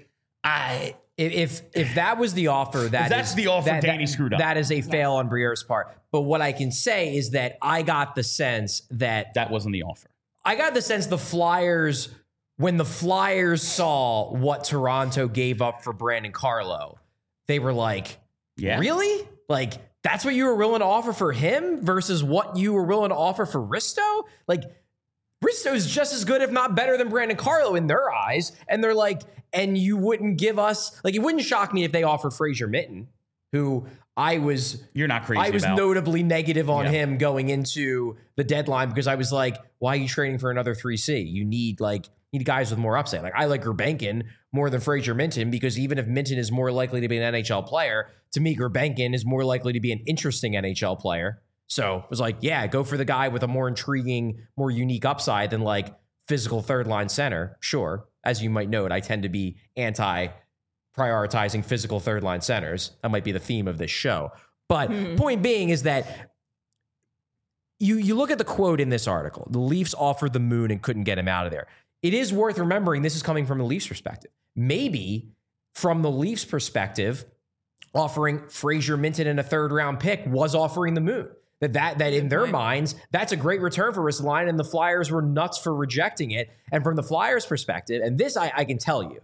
If that was the offer, that's the offer, Danny screwed up. That is a fail on Briere's part. But what I can say is that I got the sense that wasn't the offer. I got the sense the Flyers, when the Flyers saw what Toronto gave up for Brandon Carlo, they were like, really? Like, that's what you were willing to offer for him versus what you were willing to offer for Risto? Like, Risto is just as good, if not better, than Brandon Carlo in their eyes. And they're like, and you wouldn't give us, like, it wouldn't shock me if they offered Fraser Minten, who you're not crazy. I was about. Notably negative on him going into the deadline because I was like, why are you trading for another 3C? You need guys with more upside. Like, I like Gurbankin more than Fraser Minten because even if Minten is more likely to be an NHL player, to me, Gurbankin is more likely to be an interesting NHL player. So it was like, yeah, go for the guy with a more intriguing, more unique upside than like physical third line center. Sure. As you might note, I tend to be anti-prioritizing physical third line centers. That might be the theme of this show. But point being is that you look at the quote in this article, the Leafs offered the moon and couldn't get him out of there. It is worth remembering this is coming from the Leafs perspective. Maybe from the Leafs perspective, offering Fraser Minten and a third round pick was offering the moon. That in their minds, that's a great return for Ristolainen, and the Flyers were nuts for rejecting it. And from the Flyers' perspective, and this I can tell you,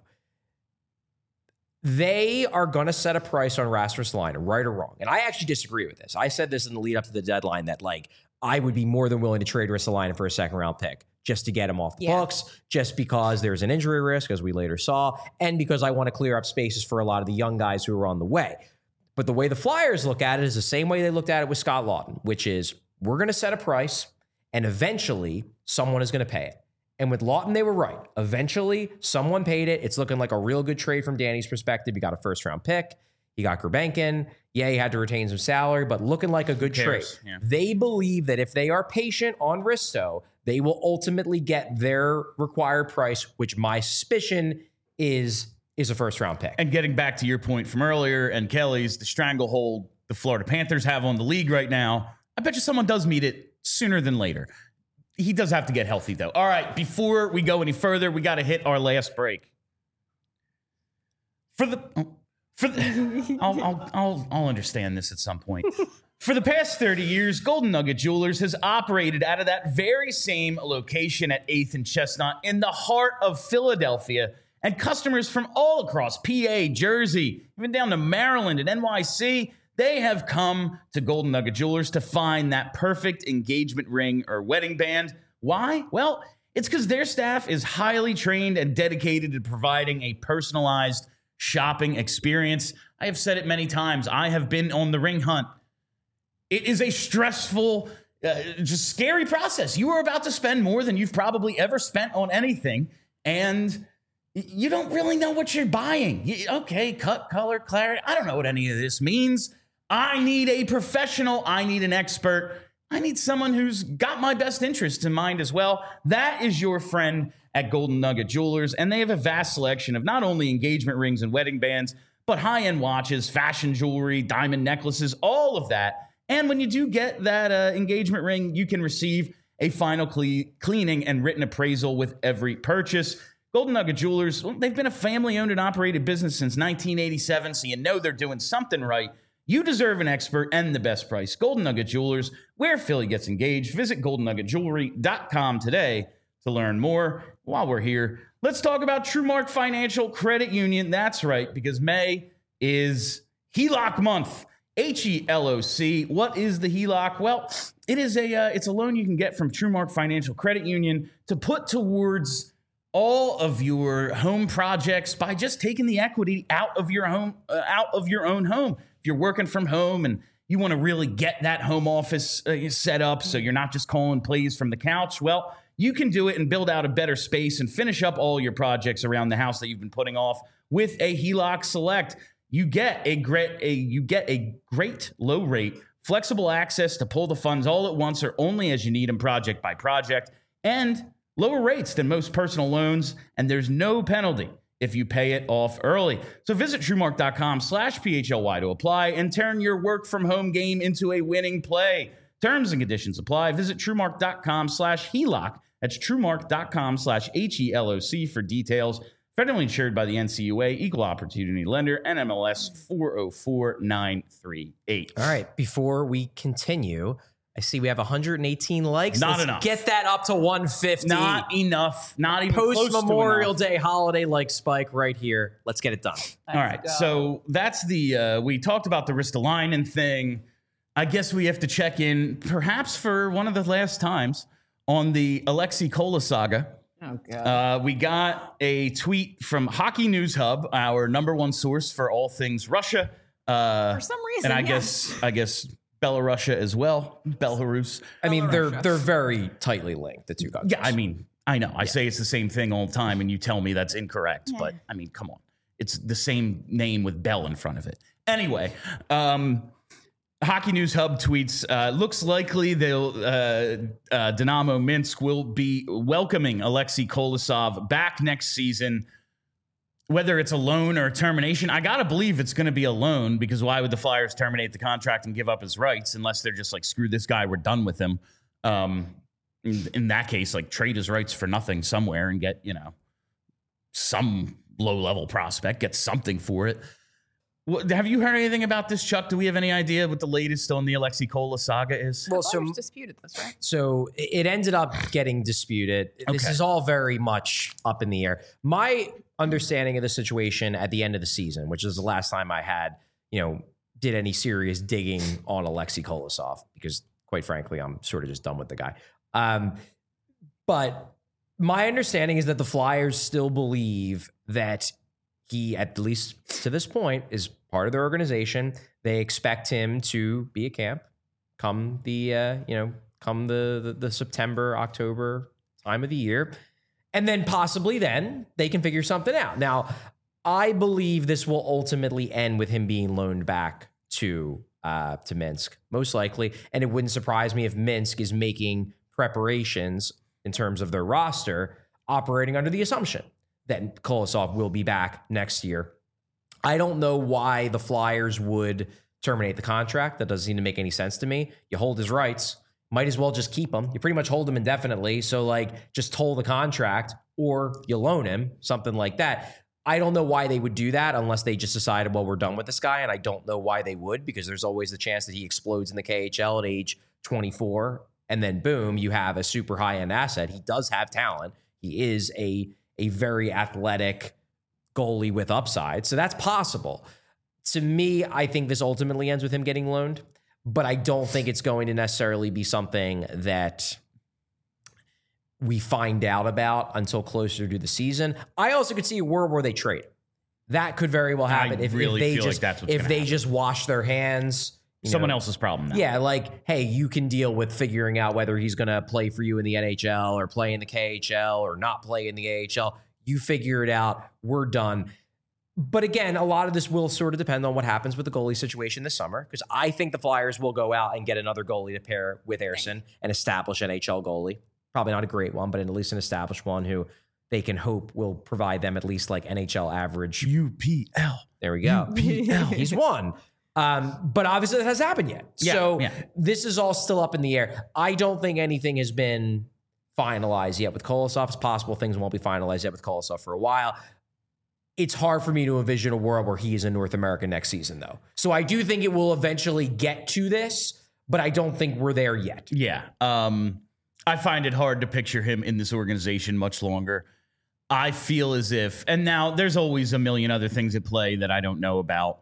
they are going to set a price on Rasmus Ristolainen, right or wrong. And I actually disagree with this. I said this in the lead up to the deadline that like I would be more than willing to trade Ristolainen for a second round pick just to get him off the books, just because there's an injury risk, as we later saw, and because I want to clear up spaces for a lot of the young guys who are on the way. But the way the Flyers look at it is the same way they looked at it with Scott Laughton, which is we're going to set a price and eventually someone is going to pay it. And with Laughton, they were right. Eventually, someone paid it. It's looking like a real good trade from Danny's perspective. You got a first-round pick. You got Gurbankin. Yeah, he had to retain some salary, but looking like a good trade. Yeah. They believe that if they are patient on Risto, they will ultimately get their required price, which my suspicion is a first-round pick. And getting back to your point from earlier and Kelly's, the stranglehold the Florida Panthers have on the league right now, I bet you someone does meet it sooner than later. He does have to get healthy, though. All right, before we go any further, we got to hit our last break. I'll understand this at some point. For the past 30 years, Golden Nugget Jewelers has operated out of that very same location at 8th and Chestnut in the heart of Philadelphia, and customers from all across PA, Jersey, even down to Maryland and NYC, they have come to Golden Nugget Jewelers to find that perfect engagement ring or wedding band. Why? Well, it's because their staff is highly trained and dedicated to providing a personalized shopping experience. I have said it many times. I have been on the ring hunt. It is a stressful, just scary process. You are about to spend more than you've probably ever spent on anything, and you don't really know what you're buying. Okay, cut, color, clarity. I don't know what any of this means. I need a professional. I need an expert. I need someone who's got my best interests in mind as well. That is your friend at Golden Nugget Jewelers, and they have a vast selection of not only engagement rings and wedding bands, but high-end watches, fashion jewelry, diamond necklaces, all of that. And when you do get that engagement ring, you can receive a final cleaning and written appraisal with every purchase. Golden Nugget Jewelers, well, they've been a family-owned and operated business since 1987, so you know they're doing something right. You deserve an expert and the best price. Golden Nugget Jewelers, where Philly gets engaged. Visit goldennuggetjewelry.com today to learn more. While we're here, let's talk about TrueMark Financial Credit Union. That's right, because May is HELOC month. HELOC. What is the HELOC? Well, it's a loan you can get from TrueMark Financial Credit Union to put towards all of your home projects by just taking the equity out of your own home. If you're working from home and you want to really get that home office set up so you're not just calling plays from the couch, well, you can do it and build out a better space and finish up all your projects around the house that you've been putting off with a HELOC Select. You get a great low rate, flexible access to pull the funds all at once or only as you need them project by project, and lower rates than most personal loans, and there's no penalty if you pay it off early. So visit TrueMark.com/PHLY to apply and turn your work from home game into a winning play. Terms and conditions apply. Visit TrueMark.com/HELOC. That's TrueMark.com/HELOC for details. Federally insured by the NCUA, Equal Opportunity Lender, NMLS 404938. All right. Before we continue, I see we have 118 likes. Not Let's enough. Get that up to 150. Not enough. Not even close to Post Memorial enough. Day holiday like spike right here. Let's get it done. All right. So that's the, we talked about the Ristolainen thing. I guess we have to check in, perhaps for one of the last times, on the Alexei Kola saga. Oh, God. We got a tweet from Hockey News Hub, our number one source for all things Russia. For some reason, And I guess Belarusia as well. Belarus. I mean, Belarusia. they're very tightly linked, the two countries. Yeah, I mean, I know. I say it's the same thing all the time, and you tell me that's incorrect. But I mean, come on. It's the same name with Bell in front of it. Anyway, Hockey News Hub tweets, looks likely they'll Dynamo Minsk will be welcoming Alexei Kolosov back next season. Whether it's a loan or a termination, I got to believe it's going to be a loan, because why would the Flyers terminate the contract and give up his rights unless they're just like, screw this guy, we're done with him. In that case, like, trade his rights for nothing somewhere and get, some low-level prospect, get something for it. Have you heard anything about this, Chuck? Do we have any idea what the latest on the Alexei Kola saga is? Well, Flyers disputed this, right? So it ended up getting disputed. This Okay. is all very much up in the air. My understanding of the situation at the end of the season, which is the last time I had, did any serious digging on Alexei Kolosov, because quite frankly, I'm sort of just done with the guy. But my understanding is that the Flyers still believe that he, at least to this point, is part of their organization. They expect him to be at camp come the September, October time of the year. And then possibly then they can figure something out. Now, I believe this will ultimately end with him being loaned back to Minsk, most likely. And it wouldn't surprise me if Minsk is making preparations in terms of their roster, operating under the assumption that Kolosov will be back next year. I don't know why the Flyers would terminate the contract. That doesn't seem to make any sense to me. You hold his rights, might as well just keep him. You pretty much hold him indefinitely. So just toll the contract, or you loan him, something like that. I don't know why they would do that unless they just decided, well, we're done with this guy. And I don't know why they would, because there's always the chance that he explodes in the KHL at age 24. And then boom, you have a super high-end asset. He does have talent. He is a very athletic goalie with upside. So that's possible. To me, I think this ultimately ends with him getting loaned, but I don't think it's going to necessarily be something that we find out about until closer to the season. I also could see a world where they trade. That could very well happen if they feel just like that's what's if gonna they happen. just wash their hands. Someone else's problem now. Yeah, hey, you can deal with figuring out whether he's going to play for you in the NHL or play in the KHL or not play in the AHL. You figure it out. We're done. But again, a lot of this will sort of depend on what happens with the goalie situation this summer, because I think the Flyers will go out and get another goalie to pair with Ersson, an established NHL goalie. Probably not a great one, but at least an established one who they can hope will provide them at least NHL average. UPL. There we go. He's won. But obviously that hasn't happened yet. This is all still up in the air. I don't think anything has been finalized yet with Kolosov. It's possible things won't be finalized yet with Kolosov for a while. It's hard for me to envision a world where he is in North America next season, though. So I do think it will eventually get to this, but I don't think we're there yet. Yeah. I find it hard to picture him in this organization much longer. I feel as if, and now there's always a million other things at play that I don't know about.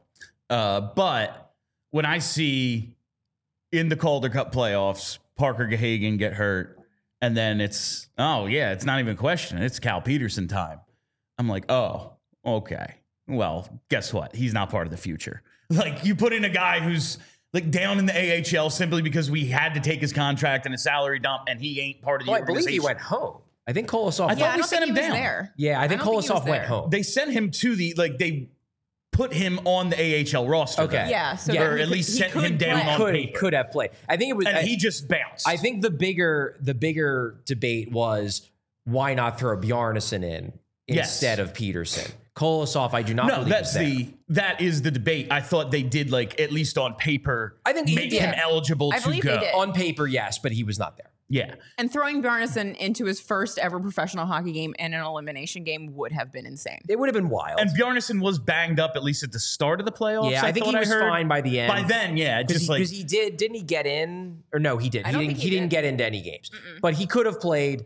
But when I see in the Calder Cup playoffs, Parker Gahagen get hurt, and then it's not even a question. It's Cal Peterson time. I'm like, oh, okay. Well, guess what? He's not part of the future. You put in a guy who's down in the AHL simply because we had to take his contract and a salary dump, and he ain't part of the organization. I believe he went home. I think Kolosov. I thought we sent him down. There. Yeah, I think Kolosov went home. They sent him to they put him on the AHL roster. Okay. though. Yeah. So Or at least sent him down on paper. Could have played. I think it was. And he just bounced. I think the bigger debate was why not throw Bjarnason in instead of Peterson. Kolosov, I do not believe that is the debate. I thought they did at least on paper. I think he make did. him eligible I to believe go. they did. On paper, yes, but he was not there. Yeah. And throwing Bjarnason into his first ever professional hockey game and an elimination game would have been insane. It would have been wild. And Bjarnason was banged up at least at the start of the playoffs. Yeah, I think he was fine by the end. By then, yeah. Just Because he didn't he get in? Or no, he did. I don't think He didn't get into any games. But he could have played.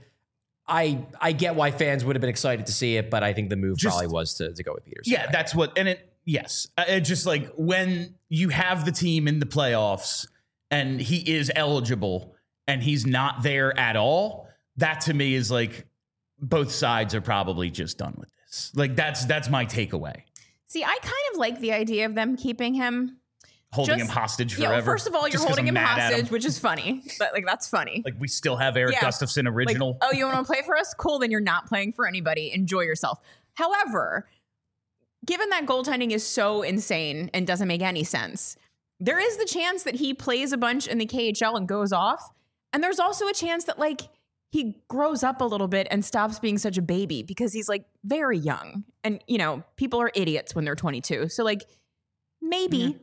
I get why fans would have been excited to see it, but I think the move probably was to go with Peterson. Yeah, that's what, and yes. It just like when you have the team in the playoffs and he is eligible and he's not there at all, that to me is like both sides are probably just done with this. Like that's my takeaway. See, I kind of like the idea of them keeping him. Holding him hostage forever. Yeah, well, first of all, you're just 'cause holding I'm him mad at hostage, which is funny. But like that's funny. Like we still have Eric Gustafson original. Like, oh, you want to play for us? Cool, then you're not playing for anybody. Enjoy yourself. However, given that goaltending is so insane and doesn't make any sense, there is the chance that he plays a bunch in the KHL and goes off. And there's also a chance that like he grows up a little bit and stops being such a baby because he's like very young. And, you know, people are idiots when they're 22. So like maybe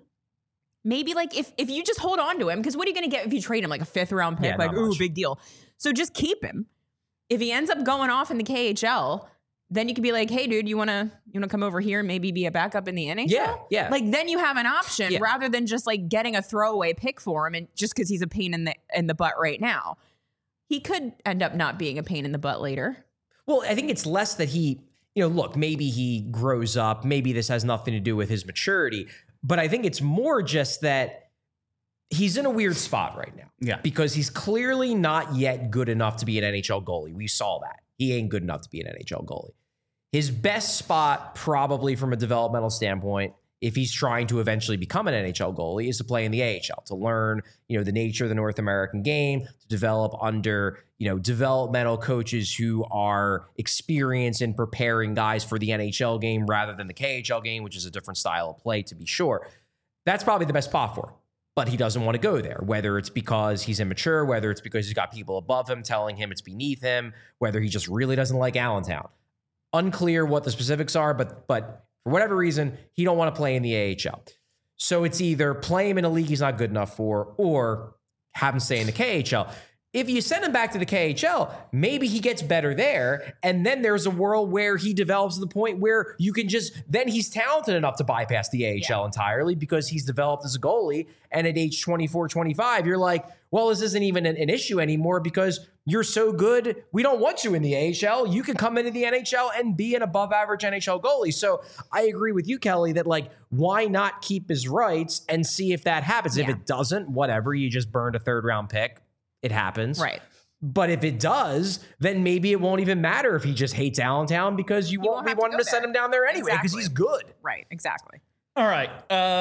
like if you just hold on to him, because what are you going to get if you trade him? Like a 5th round pick? Yeah, like, ooh, much. big deal. So just keep him. If he ends up going off in the KHL, then you could be like, hey, dude, you want to come over here and maybe be a backup in the NHL? Yeah. Like then you have an option rather than just like getting a throwaway pick for him and just because he's a pain in the butt right now. He could end up not being a pain in the butt later. Well, I think it's less that he, look, maybe he grows up. Maybe this has nothing to do with his maturity. But I think it's more just that he's in a weird spot right now. Yeah. Because he's clearly not yet good enough to be an NHL goalie. We saw that. He ain't good enough to be an NHL goalie. His best spot, probably from a developmental standpoint, if he's trying to eventually become an NHL goalie, is to play in the AHL, to learn, the nature of the North American game, to develop under, developmental coaches who are experienced in preparing guys for the NHL game rather than the KHL game, which is a different style of play, to be sure. That's probably the best spot for him. But he doesn't want to go there, whether it's because he's immature, whether it's because he's got people above him telling him it's beneath him, whether he just really doesn't like Allentown. Unclear what the specifics are, but for whatever reason, he don't want to play in the AHL. So it's either play him in a league he's not good enough for or have him stay in the KHL. If you send him back to the KHL, maybe he gets better there. And then there's a world where he develops to the point where you can then he's talented enough to bypass the AHL entirely because he's developed as a goalie. And at age 24, 25, you're like, well, this isn't even an issue anymore because you're so good. We don't want you in the AHL. You can come into the NHL and be an above average NHL goalie. So I agree with you, Kelly, that why not keep his rights and see if that happens? Yeah. If it doesn't, whatever, you just burned a 3rd round pick. It happens. Right. But if it does, then maybe it won't even matter if he just hates Allentown because you won't be wanting to send him down there anyway because he's good. Right. Exactly. All right.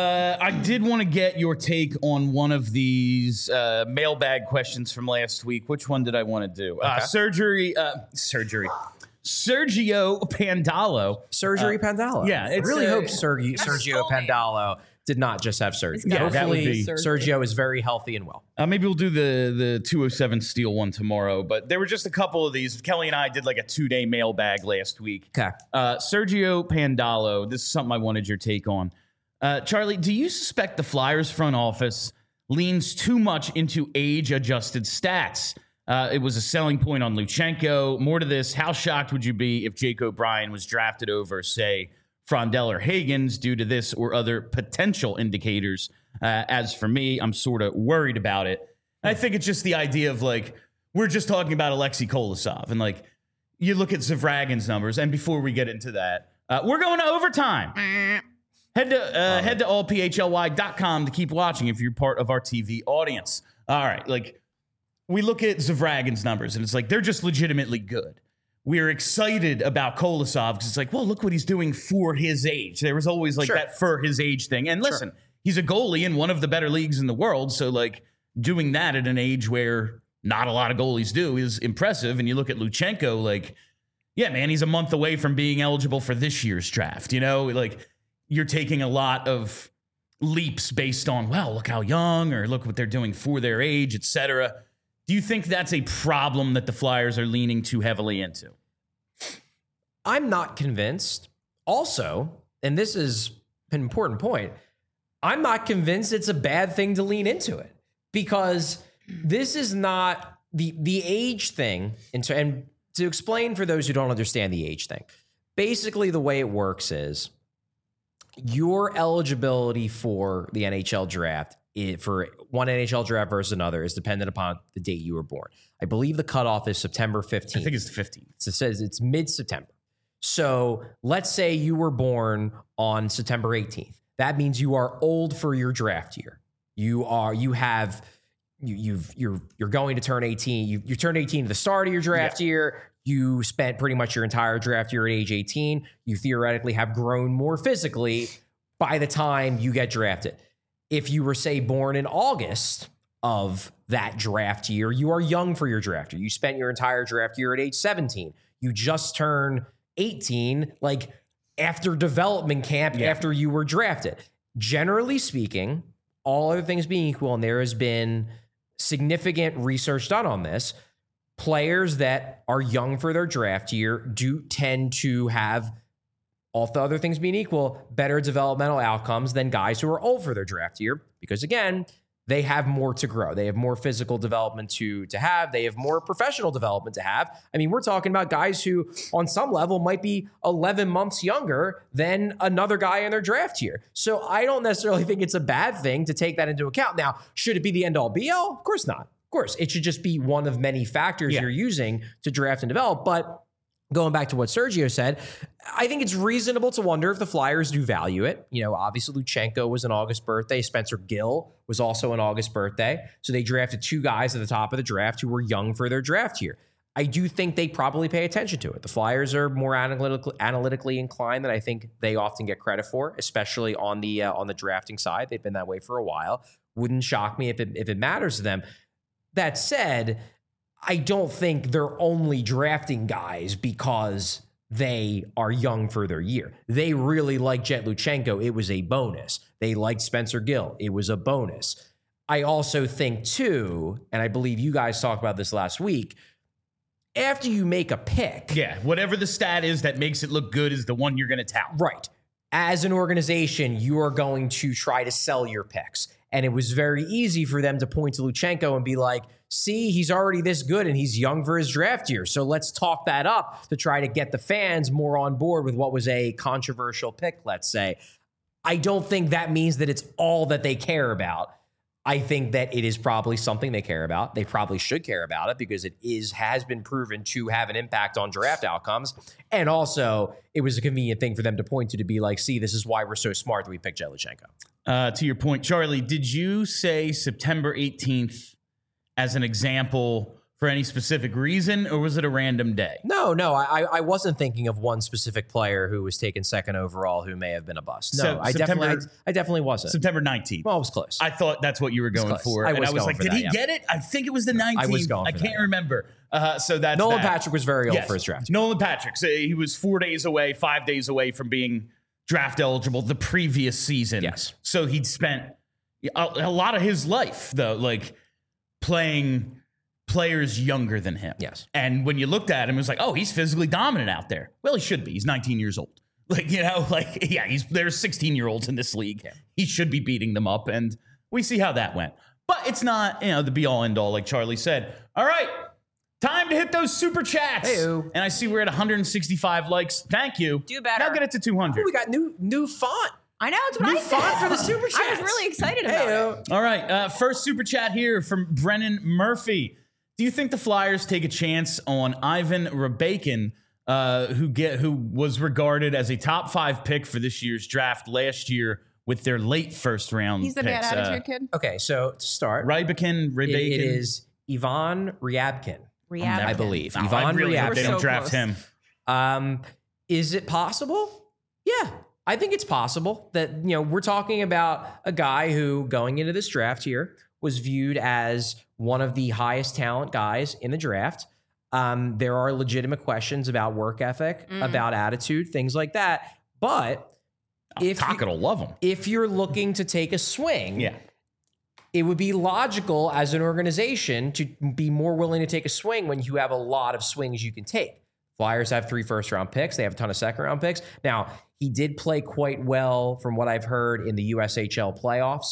I did want to get your take on one of these mailbag questions from last week. Which one did I want to do? Sergio Pandalo. Pandalo. Yeah. I really hope Sergio Pandalo did not just have surgery. Yeah, that would Hopefully be Sergio is very healthy and well. Maybe we'll do the 207 Steel one tomorrow. But there were just a couple of these. Kelly and I did like a 2-day mailbag last week. Okay. Sergio Pandalo. This is something I wanted your take on. Charlie, do you suspect the Flyers front office leans too much into age-adjusted stats? It was a selling point on Luchenko. More to this, how shocked would you be if Jake O'Brien was drafted over, say, Frondell or Higgins due to this or other potential indicators? As for me, I'm sort of worried about it. I think it's just the idea of we're just talking about Alexei Kolosov and you look at Zavragin's numbers. And before we get into that, we're going to overtime. Head to allphly.com to keep watching if you're part of our TV audience. All right. We look at Zavragin's numbers and it's they're just legitimately good. We're excited about Kolosov because it's well, look what he's doing for his age. There was always that for his age thing. And listen, he's a goalie in one of the better leagues in the world. So doing that at an age where not a lot of goalies do is impressive. And you look at Luchenko, yeah, man, he's a month away from being eligible for this year's draft. You're taking a lot of leaps based on, well, look how young or look what they're doing for their age, et cetera. Do you think that's a problem that the Flyers are leaning too heavily into? I'm not convinced. Also, and this is an important point, I'm not convinced it's a bad thing to lean into it because this is not the age thing, and to explain for those who don't understand the age thing, basically the way it works is your eligibility for the NHL draft for one NHL draft versus another is dependent upon the date you were born. I believe the cutoff is September 15th. I think it's the 15th. So it says it's mid-September. So let's say you were born on September 18th. That means you are old for your draft year. You're going to turn 18. You turned 18 at the start of your draft year. You spent pretty much your entire draft year at age 18. You theoretically have grown more physically by the time you get drafted. If you were, say, born in August of that draft year, you are young for your draft year. You spent your entire draft year at age 17. You just turned 18, like after development camp, after you were drafted. Generally speaking, all other things being equal, and there has been significant research done on this, players that are young for their draft year do tend to have, all the other things being equal, better developmental outcomes than guys who are old for their draft year. Because again, they have more to grow. They have more physical development to have. They have more professional development to have. I mean, we're talking about guys who on some level might be 11 months younger than another guy in their draft year. So I don't necessarily think it's a bad thing to take that into account. Now, should it be the end all be all? Of course not. Of course, it should just be one of many factors you're using to draft and develop. But going back to what Sergio said, I think it's reasonable to wonder if the Flyers do value it. You know, obviously Luchenko was an August birthday. Spencer Gill was also an August birthday. So they drafted two guys at the top of the draft who were young for their draft year. I do think they probably pay attention to it. The Flyers are more analytically inclined than I think they often get credit for, especially on the drafting side. They've been that way for a while. Wouldn't shock me if it matters to them. That said, I don't think they're only drafting guys because they are young for their year. They really like Jet Luchenko. It was a bonus. They liked Spencer Gill. It was a bonus. I also think too, and I believe you guys talked about this last week, after you make a pick. Yeah, whatever the stat is that makes it look good is the one you're going to tout. Right. As an organization, you are going to try to sell your picks. And it was very easy for them to point to Luchenko and be like, see, he's already this good and he's young for his draft year. So let's talk that up to try to get the fans more on board with what was a controversial pick, let's say. I don't think that means that it's all that they care about. I think that it is probably something they care about. They probably should care about it because it has been proven to have an impact on draft outcomes. And also, it was a convenient thing for them to point to be like, see, this is why we're so smart that we picked Jet Luchenko. To your point, Charlie, did you say September 18th as an example for any specific reason, or was it a random day? No, I wasn't thinking of one specific player who was taken second overall who may have been a bust. No, I definitely wasn't. September 19th. Well, it was close. I thought that's what you were going for. I was like, did he get it? I think it was the 19th. I was going for I can't remember. So that's Nolan Patrick was very old for his draft. Nolan Patrick. So he was 5 days away from being draft eligible the previous season. Yes. So he'd spent a lot of his life, though, like playing players younger than him. Yes. And when you looked at him, it was like, oh, he's physically dominant out there. Well, he should be. He's 19 years old. Like, you know, like, yeah, there's 16-year-olds in this league. Yeah. He should be beating them up. And we see how that went. But it's not, the be all end all, like Charlie said. All right. Time to hit those super chats. Hey-o. And I see we're at 165 likes. Thank you. Do better. Now get it to 200. Oh, we got new font. I know, it's what New I said. font for the super chats. I was really excited about it. All right. First super chat here from Brennan Murphy. Do you think the Flyers take a chance on Ivan Rabakin, who was regarded as a top 5 pick for this year's draft last year with their late first round He's the picks? bad attitude kid? Okay, so to start, Rabakin. It is Ivan Ryabkin. I believe. No, Ivan I really hope Ryabkin. they don't So draft close. him. Is it possible? Yeah, I think it's possible that, we're talking about a guy who going into this draft here was viewed as one of the highest talent guys in the draft. There are legitimate questions about work ethic, about attitude, things like that. But Taka will love him. if you're looking to take a swing, Yeah. it would be logical as an organization to be more willing to take a swing when you have a lot of swings you can take. Flyers have 3 first-round picks. They have a ton of second-round picks. Now, he did play quite well from what I've heard in the USHL playoffs.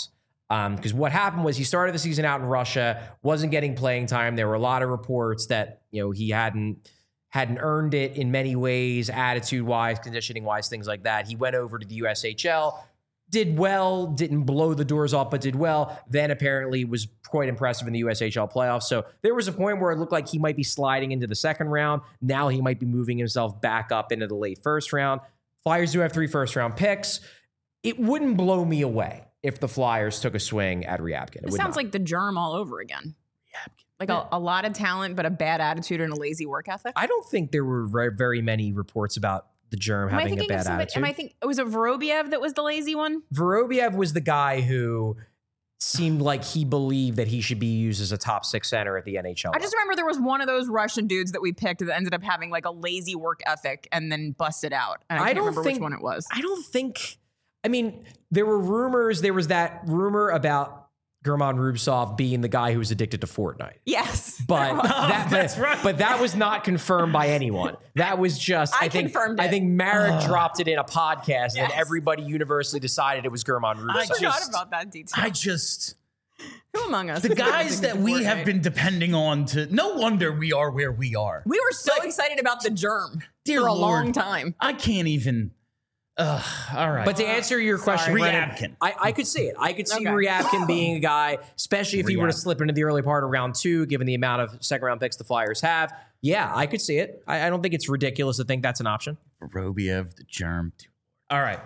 Because what happened was he started the season out in Russia, wasn't getting playing time. There were a lot of reports that he hadn't earned it in many ways, attitude-wise, conditioning-wise, things like that. He went over to the USHL, did well, didn't blow the doors off, but did well. Then apparently was quite impressive in the USHL playoffs. So there was a point where it looked like he might be sliding into the second round. Now he might be moving himself back up into the late first round. Flyers do have 3 first-round picks. It wouldn't blow me away if the Flyers took a swing at Ryabkin. It sounds like the germ all over again. Like a lot of talent, but a bad attitude and a lazy work ethic. I don't think there were very many reports about the germ having a bad attitude. I think it was Vorobiev that was the lazy one. Vorobiev was the guy who seemed like he believed that he should be used as a top 6 center at the NHL. I just remember there was one of those Russian dudes that we picked that ended up having like a lazy work ethic and then busted out. And I can't remember which one it was. I don't think. I mean, there were rumors. There was that rumor about German Rubtsov being the guy who was addicted to Fortnite. Yes. But that's right. But that was not confirmed by anyone. That was just I think confirmed it. I think Marek dropped it in a podcast and everybody universally decided it was German Rubtsov. I forgot about that detail. Who among us? The guys that we have been depending on no wonder we are where we are. We were so excited about the germ Dear for a Lord, long time. I can't even. All right. But to answer your question, Ryabkin. I could see it. I could see Okay. Ryabkin being a guy, especially if he were to slip into the early part of round 2, given the amount of second-round picks the Flyers have. Yeah, I could see it. I don't think it's ridiculous to think that's an option. Vorobiev, the germ. All right.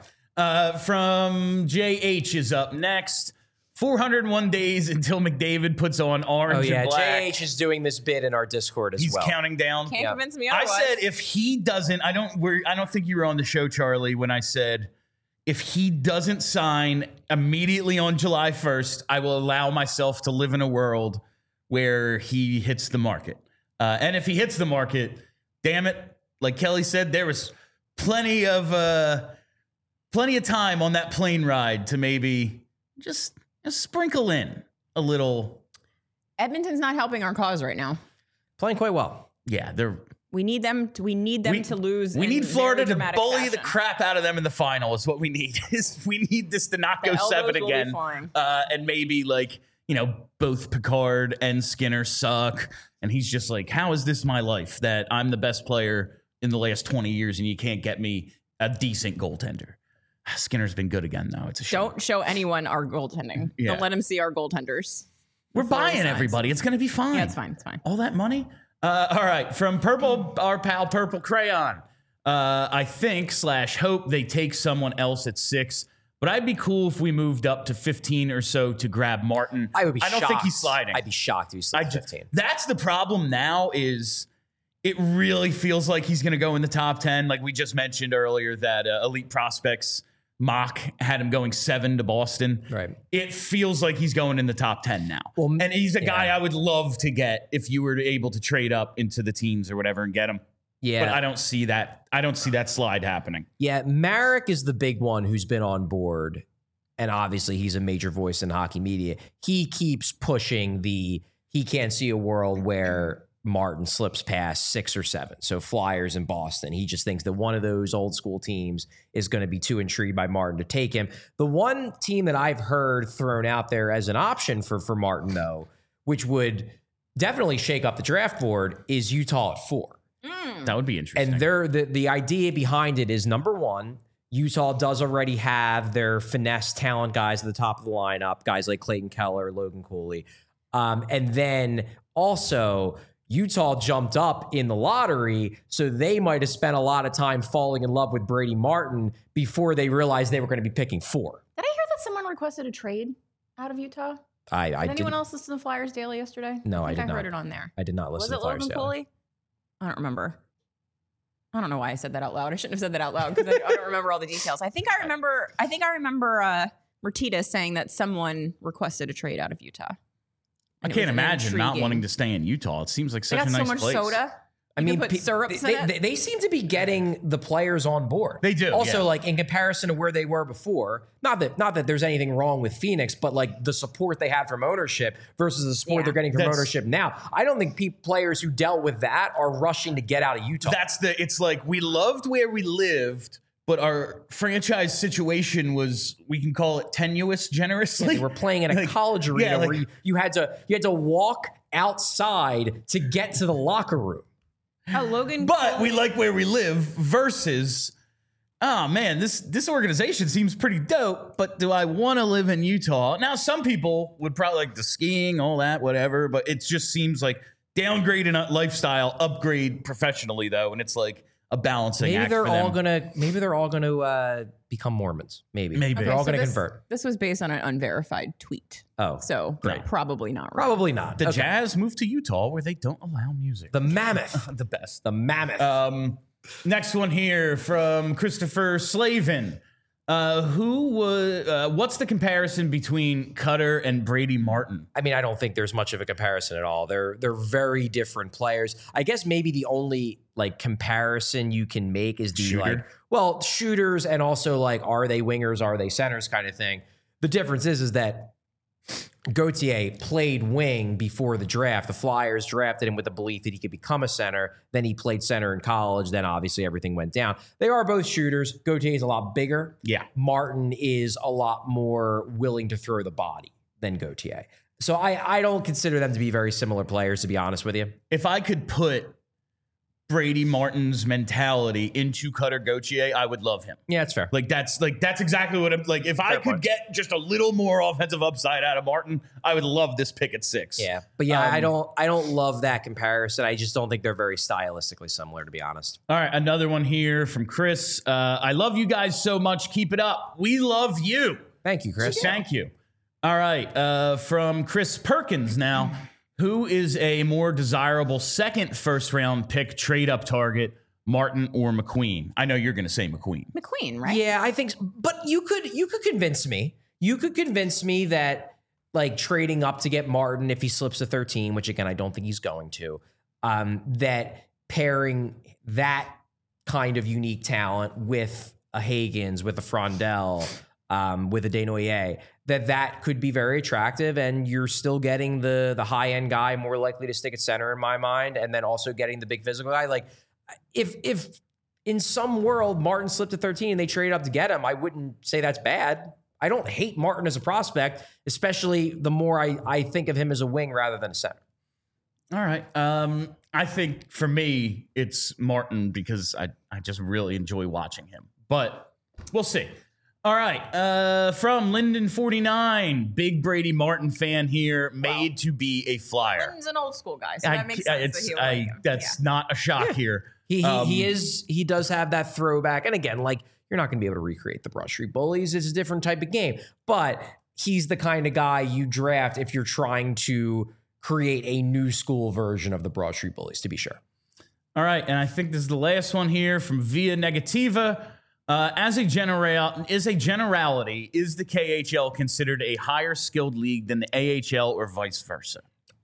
From JH is up next. 401 days until McDavid puts on orange and black. JH is doing this bit in our Discord as He's well. counting down. Can't convince me I otherwise. said if he doesn't, I don't think you were on the show, Charlie, when I said if he doesn't sign immediately on July 1st, I will allow myself to live in a world where he hits the market. And if he hits the market, damn it, like Kelly said, there was plenty of time on that plane ride to maybe just sprinkle in a little. Edmonton's not helping our cause right now. Playing quite well. Yeah, We need them to lose. We in need Florida very to dramatic bully the fashion. crap out of them in the final. Is what we need. We need this to not go The elbows 7 will be again, flying. and maybe both Picard and Skinner suck, and he's just like, how is this my life that I'm the best player in the last 20 years and you can't get me a decent goaltender? Skinner's been good again, though. It's a shame. Don't show anyone our goaltending. Yeah. Don't let them see our goaltenders. We're before he buying signs. everybody. It's going to be fine. Yeah, it's fine. It's fine. All that money? All right. From Purple, our pal Purple Crayon. I think / hope they take someone else at 6. But I'd be cool if we moved up to 15 or so to grab Martin. I would be I don't shocked. think he's sliding. I'd be shocked if he's sliding 15. That's the problem now is it really feels like he's going to go in the top 10. Like we just mentioned earlier that Elite Prospects mock had him going 7 to Boston. Right. It feels like he's going in the top 10 now. Well, and he's a guy I would love to get if you were able to trade up into the teams or whatever and get him. Yeah. But I don't see that. I don't see that slide happening. Yeah, Marek is the big one who's been on board. And obviously he's a major voice in hockey media. He keeps pushing he can't see a world where Martin slips past 6 or 7. So Flyers and Boston. He just thinks that one of those old school teams is going to be too intrigued by Martin to take him. The one team that I've heard thrown out there as an option for Martin, though, which would definitely shake up the draft board, is Utah at 4. That would be interesting. And the idea behind it is, number one, Utah does already have their finesse talent guys at the top of the lineup, guys like Clayton Keller, Logan Cooley. And then also Utah jumped up in the lottery, so they might have spent a lot of time falling in love with Brady Martin before they realized they were going to be picking 4. Did I hear that someone requested a trade out of Utah? I Did anyone didn't. else listen to Flyers Daily yesterday? No, I think did not. heard it on there. I did not Was listen it to Flyers Logan Daily. Cooley? I don't remember. I don't know why I said that out loud. I shouldn't have said that out loud because I don't remember all the details. I think I remember Mertitas saying that someone requested a trade out of Utah. I And it can't was an imagine not intriguing- wanting to stay in Utah. It seems like They such got a nice so much place. soda. I You mean, can put syrups in it. they seem to be getting the players on board. They do, Also, yeah. like in comparison to where they were before, not that there's anything wrong with Phoenix, but like the support they had from ownership versus the support Yeah. they're getting from That's- ownership now. I don't think players who dealt with that are rushing to get out of Utah. It's like we loved where we lived, but our franchise situation was, we can call it tenuous generously. We're playing in a college arena like- where you had to walk outside to get to the locker room. Logan. But we like where we live versus, oh man, this organization seems pretty dope, but do I want to live in Utah? Now, some people would probably like the skiing, all that, whatever, but it just seems like downgrade in lifestyle, upgrade professionally, though, and it's like a balancing Maybe act they're for all them. gonna become Mormons. Maybe Maybe. they're all Okay, gonna so convert. This was based on an unverified tweet. Oh, So Right. probably not right. probably not. The Okay. Jazz moved to Utah where they don't allow music. The Mammoth. The best. The Mammoth. Next one here from Christopher Slavin. What's the comparison between Cutter and Brady Martin? I mean, I don't think there's much of a comparison at all. They're very different players. I guess maybe the only like comparison you can make is the Shooter? shooters and also like, are they wingers, are they centers kind of thing. The difference is that Gauthier played wing before the draft. The Flyers drafted him with the belief that he could become a center. Then he played center in college. Then obviously everything went down. They are both shooters. Gauthier is a lot bigger. Yeah. Martin is a lot more willing to throw the body than Gauthier. So I don't consider them to be very similar players, to be honest with you. If I could put Brady Martin's mentality into Cutter Gauthier, I would love him. Yeah, that's fair. That's exactly what I'm like. If I could point. get just a little more offensive upside out of Martin, I would love this pick at 6. Yeah, but yeah, I don't love that comparison. I just don't think they're very stylistically similar, to be honest. All right, another one here from Chris. I love you guys so much. Keep it up. We love you. Thank you, Chris. Thank you. All right, from Chris Perkins now. Who is a more desirable second first-round pick trade-up target, Martin or McQueen? I know you're going to say McQueen. McQueen, right? Yeah, I think so. But you could convince me. You could convince me that like trading up to get Martin if he slips to 13, which again I don't think he's going to, that pairing that kind of unique talent with a Higgins, with a Frondell, with a Desnoyers, that could be very attractive, and you're still getting the high-end guy more likely to stick at center in my mind, and then also getting the big physical guy. Like if in some world Martin slipped to 13 and they traded up to get him, I wouldn't say that's bad. I don't hate Martin as a prospect, especially the more I think of him as a wing rather than a center. All right. I think for me, it's Martin because I just really enjoy watching him. But we'll see. All right. From Linden49, big Brady Martin fan here, made to be a Flyer. Lynn's an old school guy, so that makes sense. That he would like him. That's not a shock here. He does have that throwback. And again, like you're not going to be able to recreate the Broad Street Bullies. It's a different type of game, but he's the kind of guy you draft if you're trying to create a new school version of the Broad Street Bullies, to be sure. All right. And I think this is the last one here from Via Negativa. Is a generality, is the KHL considered a higher skilled league than the AHL or vice versa?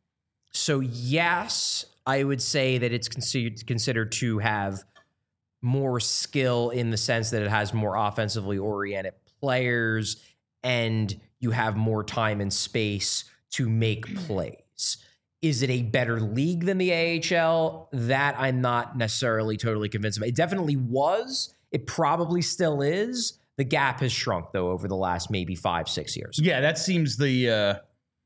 So yes, I would say that it's considered to have more skill in the sense that it has more offensively oriented players and you have more time and space to make plays. Is it a better league than the AHL? That I'm not necessarily totally convinced of. It definitely was. It probably still is. The gap has shrunk, though, over the last maybe 5-6 years. Yeah, that seems the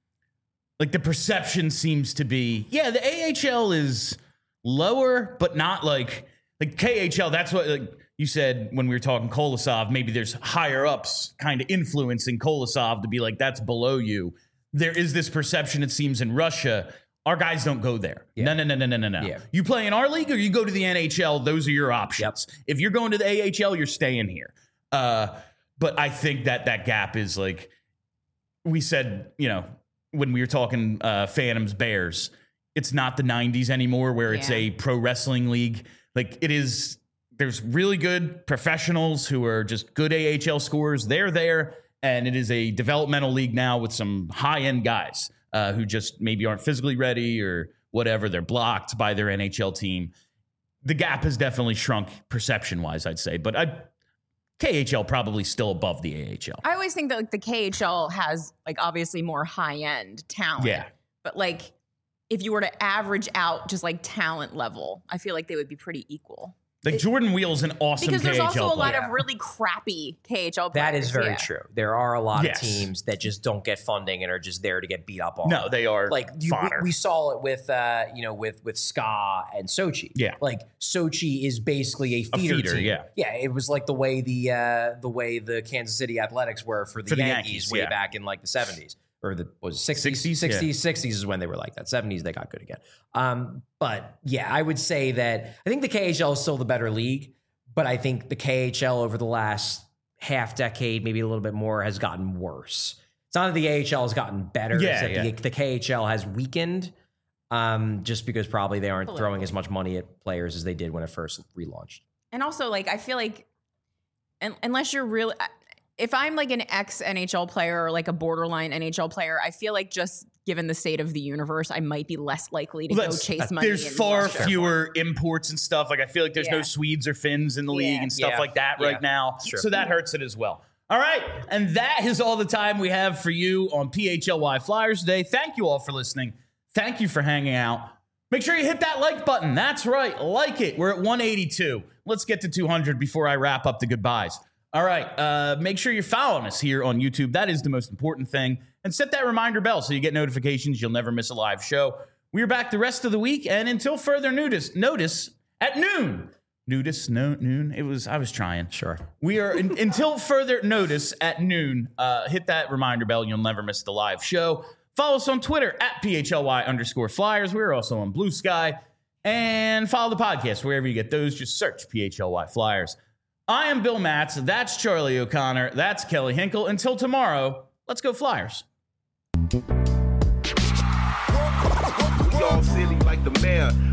perception seems to be, yeah, the AHL is lower, but not like KHL. That's what like you said when we were talking Kolosov. Maybe there's higher ups kind of influencing Kolosov to be like, that's below you. There is this perception, it seems, in Russia. Our guys don't go there. Yeah. No. Yeah. You play in our league or you go to the NHL, those are your options. Yep. If you're going to the AHL, you're staying here. But I think that gap is like we said, when we were talking Phantoms Bears, it's not the 90s anymore where it's a pro wrestling league. Like it is, there's really good professionals who are just good AHL scorers. They're there. And it is a developmental league now with some high-end guys who just maybe aren't physically ready or whatever. They're blocked by their NHL team. The gap has definitely shrunk perception-wise, I'd say. But KHL probably still above the AHL. I always think that like the KHL has like obviously more high-end talent. Yeah. But like if you were to average out just like talent level, I feel like they would be pretty equal. Like Jordan Wheel's an awesome because there's KHL also a lot player. of really crappy KHL players. That is very yeah. true. There are a lot Yes. of teams that just don't get funding and are just there to get beat up on. No, they are like fodder. we saw it with with SKA and Sochi. Yeah. like Sochi is basically a feeder team. yeah. It was like the way the Kansas City Athletics were for the Yankees way yeah. back in like the 70s. Or the was it 60s? 60s? 60s, Yeah. 60s is when they were like that. 70s they got good again. But yeah, I would say that I think the KHL is still the better league, but I think the KHL over the last half decade, maybe a little bit more, has gotten worse. It's not that the AHL has gotten better. Yeah, it's that the KHL has weakened just because probably they aren't throwing as much money at players as they did when it first relaunched. And also, like, I feel like unless you're really, if I'm like an ex-NHL player or like a borderline NHL player, I feel like just given the state of the universe, I might be less likely to go chase money. There's in far Russia. fewer imports and stuff. Like I feel like there's no Yeah. Swedes or Finns in the league and stuff Yeah. like that Yeah. right now. Sure. So that hurts it as well. All right. And that is all the time we have for you on PHLY Flyers today. Thank you all for listening. Thank you for hanging out. Make sure you hit that like button. That's right. Like it. We're at 182. Let's get to 200 before I wrap up the goodbyes. All right. Make sure you're following us here on YouTube. That is the most important thing. And set that reminder bell so you get notifications. You'll never miss a live show. We're back the rest of the week. And until further notice at noon. Noon. I was trying. Sure. We are until further notice at noon. Hit that reminder bell. You'll never miss the live show. Follow us on Twitter at PHLY_Flyers. We're also on Blue Sky. And follow the podcast wherever you get those. Just search PHLY Flyers. I am Bill Matz. That's Charlie O'Connor. That's Kelly Hinkle. Until tomorrow, let's go Flyers. We all silly like the mayor.